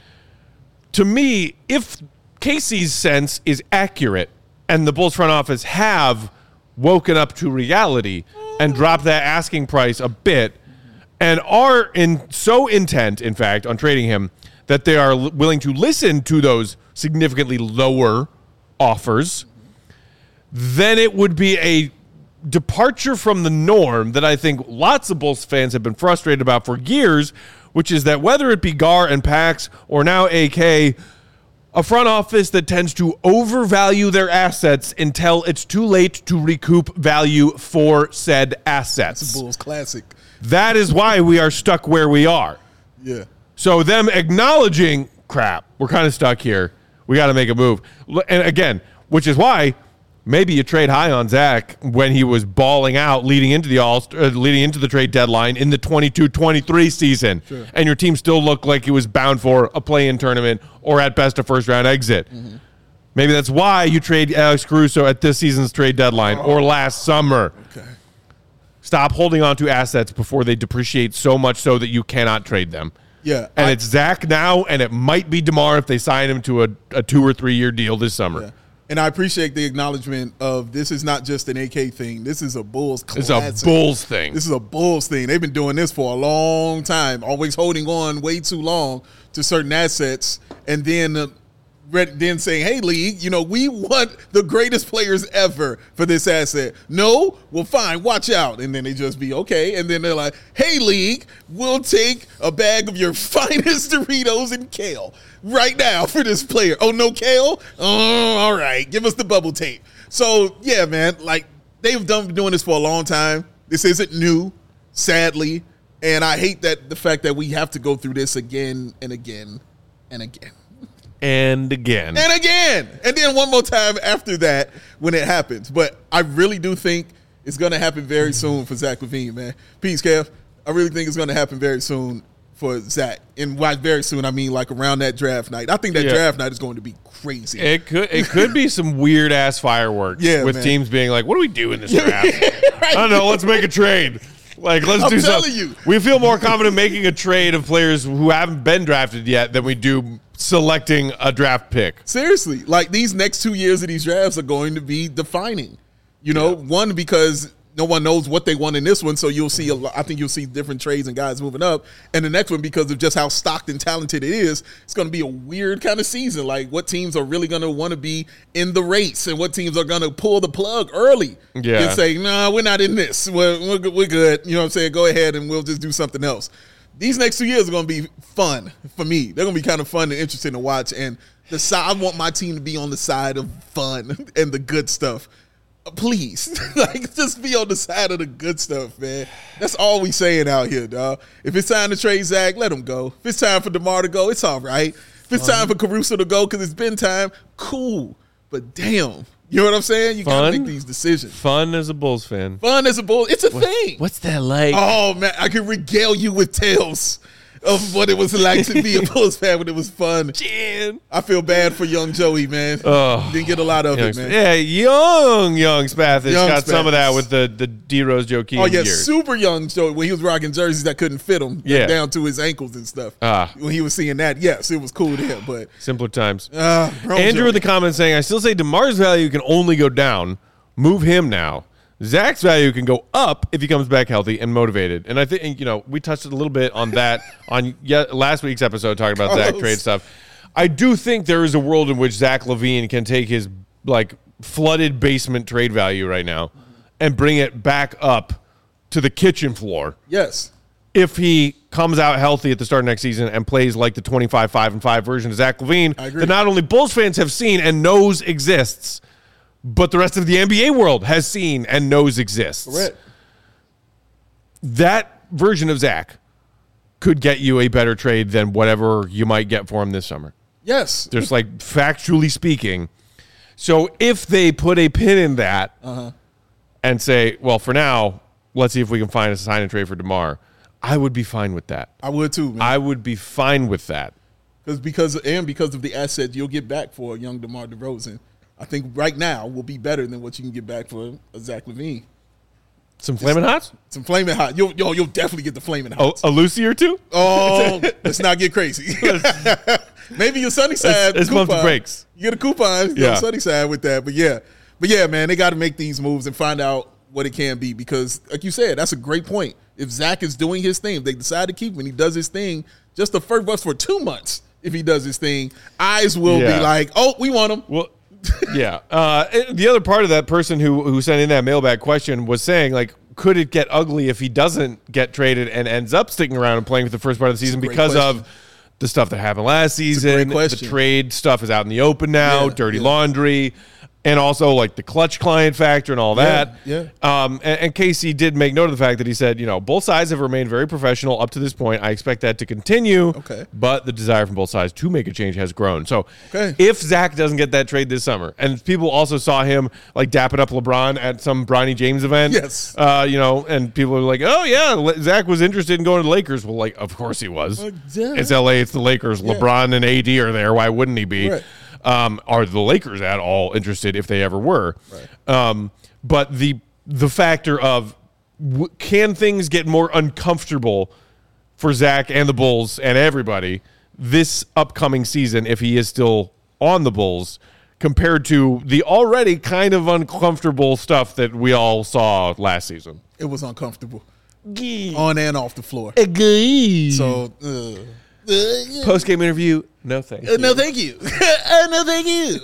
To me, if Casey's sense is accurate and the Bulls front office have woken up to reality and dropped that asking price a bit and are so intent, in fact, on trading him that they are willing to listen to those significantly lower offers, then it would be a departure from the norm that I think lots of Bulls fans have been frustrated about for years, which is that whether it be Gar and Pax or now AK, a front office that tends to overvalue their assets until it's too late to recoup value for said assets. That's a Bulls classic. That is why we are stuck where we are. Yeah. So them acknowledging, crap, we're kind of stuck here. We got to make a move. And again, which is why maybe you trade high on Zach when he was balling out leading into the trade deadline in the 22-23 season. Sure. And your team still looked like it was bound for a play-in tournament or at best a first-round exit. Maybe that's why you trade Alex Caruso at this season's trade deadline or last summer. Okay. Stop holding on to assets before they depreciate so much so that you cannot trade them. Yeah. And it's Zach now, and it might be DeMar if they sign him to a 2 or 3 year deal this summer. Yeah. And I appreciate the acknowledgement of this is not just an AK thing. This is a Bulls classic. It's a Bulls thing. This is a Bulls thing. They've been doing this for a long time, always holding on way too long to certain assets, and then saying, hey, league, we want the greatest players ever for this asset. No? Well, fine, watch out. And then they just be okay. And then they're like, hey, league, we'll take a bag of your finest Doritos and kale right now for this player. Oh, no kale? Oh, all right. Give us the bubble tape. So, yeah, man, like they've been doing this for a long time. This isn't new, sadly. And I hate the fact that we have to go through this again and again and again. And again. And again. And then one more time after that when it happens. But I really do think it's going to happen very soon for Zach LaVine, man. Peace, Kev. I really think it's going to happen very soon for Zach. And by very soon, I mean like around that draft night. I think that draft night is going to be crazy. It could be some weird ass fireworks with teams being like, what do we do in this draft? Right. I don't know. Let's make a trade. Like, let's do something. You. We feel more confident making a trade of players who haven't been drafted yet than we do selecting a draft pick. Seriously. Like, these next 2 years of these drafts are going to be defining. You know, one, because no one knows what they want in this one, so you'll see I think you'll see different trades and guys moving up. And the next one, because of just how stocked and talented it is, it's going to be a weird kind of season. Like, what teams are really going to want to be in the race and what teams are going to pull the plug early and say, nah, we're not in this. We're good. You know what I'm saying? Go ahead and we'll just do something else. These next 2 years are going to be fun for me. They're going to be kind of fun and interesting to watch. And I want my team to be on the side of fun and the good stuff. Please, like, just be on the side of the good stuff, man. That's all we saying out here, dog. If it's time to trade Zach, let him go. If it's time for DeMar to go, it's all right. If it's time for Caruso to go because it's been time, cool. But damn, you know what I'm saying? You got to make these decisions. Fun as a Bulls fan. Fun as a Bulls. It's a thing. What's that like? Oh, man, I can regale you with tales of what it was like to be a Bulls fan when it was fun. Jan. I feel bad for young Joey, man. Didn't get a lot of it, man. Yeah, young Spathis got some of that with the D Rose Joakim Oh, yeah, years. super young Joey when he was rocking jerseys that couldn't fit him down to his ankles and stuff. When he was seeing that, yes, it was cool to him. But simpler times. Andrew in the comments saying, I still say DeMar's value can only go down. Move him now. Zach's value can go up if he comes back healthy and motivated. And I think, you know, we touched a little bit on that on last week's episode talking about Zach trade stuff. I do think there is a world in which Zach LaVine can take his, like, flooded basement trade value right now and bring it back up to the kitchen floor. Yes. If he comes out healthy at the start of next season and plays like the 25-5-5 version of Zach LaVine that not only Bulls fans have seen and knows exists, but the rest of the NBA world has seen and knows exists. Correct. That version of Zach could get you a better trade than whatever you might get for him this summer. Yes. Just like factually speaking. So if they put a pin in that and say, well, for now, let's see if we can find a sign and trade for DeMar, I would be fine with that. I would too, man. I would be fine with that. Because of the assets you'll get back for a young DeMar DeRozan. I think right now will be better than what you can get back for a Zach LaVine. Some Flamin' Hots? Some Flamin' Hot. You'll definitely get the Flamin' Hots. A Lucy or two? Oh, let's not get crazy. Maybe your Sunnyside it's coupon. Bump the brakes. You get a coupon, you go Sunnyside with that. But yeah, man, they got to make these moves and find out what it can be because, like you said, that's a great point. If Zach is doing his thing, if they decide to keep him and he does his thing, just the first bus for 2 months, if he does his thing, eyes will be like, oh, we want him. Well, yeah. The other part of that person who sent in that mailbag question was saying, like, could it get ugly if he doesn't get traded and ends up sticking around and playing for the first part of the season because of the stuff that happened last season? The trade stuff is out in the open now, dirty laundry, and also like the clutch client factor and all that. And Casey did make note of the fact that he said, you know, both sides have remained very professional up to this point. I expect that to continue. But the desire from both sides to make a change has grown. So if Zach doesn't get that trade this summer, and people also saw him like dapping up LeBron at some Bronny James event, you know, and people were like, oh yeah, Zach was interested in going to the Lakers. Well, like, of course he was. It's LA, it's the Lakers. LeBron and AD are there. Why wouldn't he be? Are the Lakers at all interested if they ever were? But the factor of can things get more uncomfortable for Zach and the Bulls and everybody this upcoming season if he is still on the Bulls compared to the already kind of uncomfortable stuff that we all saw last season? It was uncomfortable. On and off the floor. So, post-game interview, no thank you. No thank you. No thank you.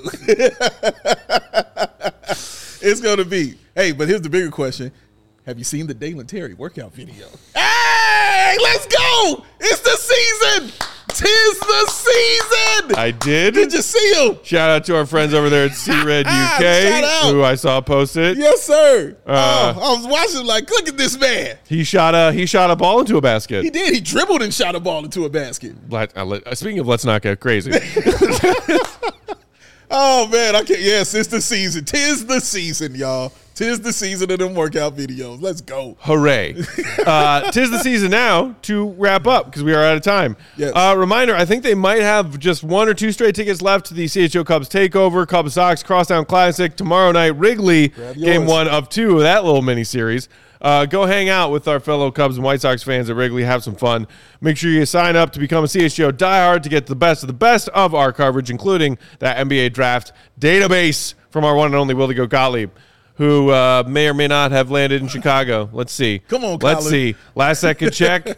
It's going to be. Hey, but here's the bigger question. Have you seen the Dalen Terry workout video? Hey, let's go. It's the season. 'Tis the season. I did. Did you see him? Shout out to our friends over there at C-Red UK, who I saw post it. Yes, sir. I was watching like, look at this man. He shot a ball into a basket. He did. He dribbled and shot a ball into a basket. Speaking of let's not get crazy. Oh, man. I can't. Yes, it's the season. 'Tis the season, y'all. 'Tis the season of them workout videos. Let's go. Hooray. 'Tis the season now to wrap up because we are out of time. Yes. Reminder, I think they might have just 1 or 2 straight tickets left to the CHO Cubs Takeover, Cubs Sox Crosstown Classic tomorrow night, Wrigley, game 1 of 2 of that little mini-series. Go hang out with our fellow Cubs and White Sox fans at Wrigley. Have some fun. Make sure you sign up to become a CHGO diehard to get the best of our coverage, including that NBA draft database from our one and only Willie Gottlieb, who may or may not have landed in Chicago. Let's see. Come on, Let's Colin. see. Last second check.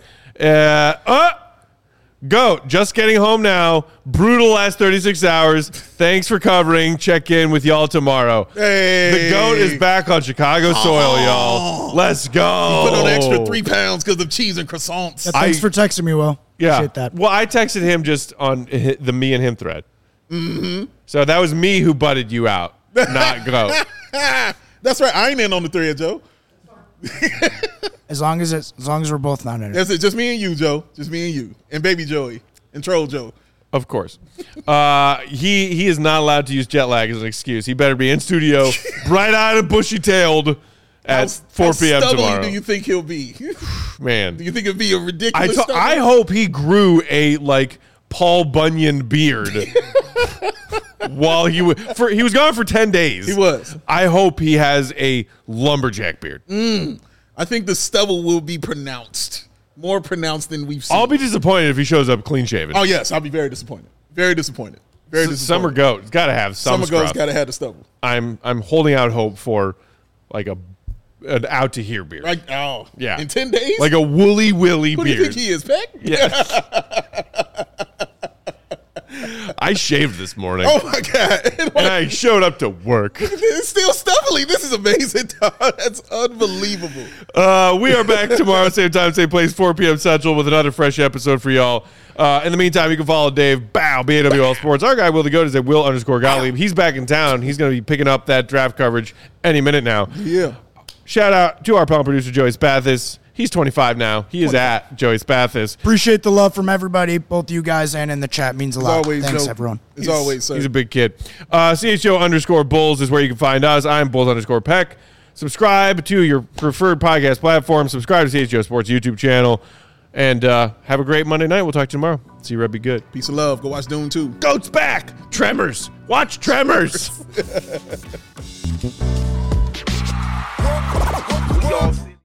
Goat, just getting home now. Brutal last 36 hours. Thanks for covering. Check in with y'all tomorrow. Hey. The Goat is back on Chicago soil, y'all. Let's go. Put on an extra 3 pounds because of cheese and croissants. Yeah, thanks for texting me, Will. Yeah. Appreciate that. Well, I texted him just on the me and him thread. Mm-hmm. So that was me who butted you out, not Goat. That's right. I ain't in on the thread, Joe. As long as we're both not in it. That's it. Just me and you, Joe. Just me and you. And baby Joey. And troll Joe. Of course. He is not allowed to use jet lag as an excuse. He better be in studio, bright-eyed and bushy-tailed at 4 p.m. How tomorrow. do you think he'll be? Man. Do you think it'll be a ridiculous I hope he grew a, Paul Bunyan beard while he was gone for 10 days. He was. I hope he has a lumberjack beard. I think the stubble will be pronounced. More pronounced than we've seen. I'll be disappointed if he shows up clean shaven. Oh, yes. I'll be very disappointed. Very disappointed. Very disappointed. Summer Goat. It's got to have some Summer Goat's scrub. got to have the stubble. I'm holding out hope for an out to here beard. Yeah. In 10 days? Like a woolly willy Who beard. do you think he is, Peck? Yeah. I shaved this morning. Oh, my God. And I showed up to work. It's still stubbly. This is amazing, dog. That's unbelievable. We are back tomorrow, same time, same place, 4 p.m. Central with another fresh episode for y'all. In the meantime, you can follow Dave, BAWL Sports. Our guy, Will the Goat, is at Will_Gottlieb. He's back in town. He's going to be picking up that draft coverage any minute now. Yeah. Shout out to our panel producer, Joey Spathis. He's 25 now. He is at Joey Spathis. Appreciate the love from everybody, both you guys and in the chat. Means a lot. Always, Thanks, Joe. everyone. As always, sir. He's a big kid. CHO_Bulls is where you can find us. I'm Bulls_Peck. Subscribe to your preferred podcast platform. Subscribe to CHO Sports YouTube channel. And have a great Monday night. We'll talk to you tomorrow. See you, Red. Be good. Peace of love. Go watch Dune 2. Goat's back. Tremors. Watch Tremors. We all see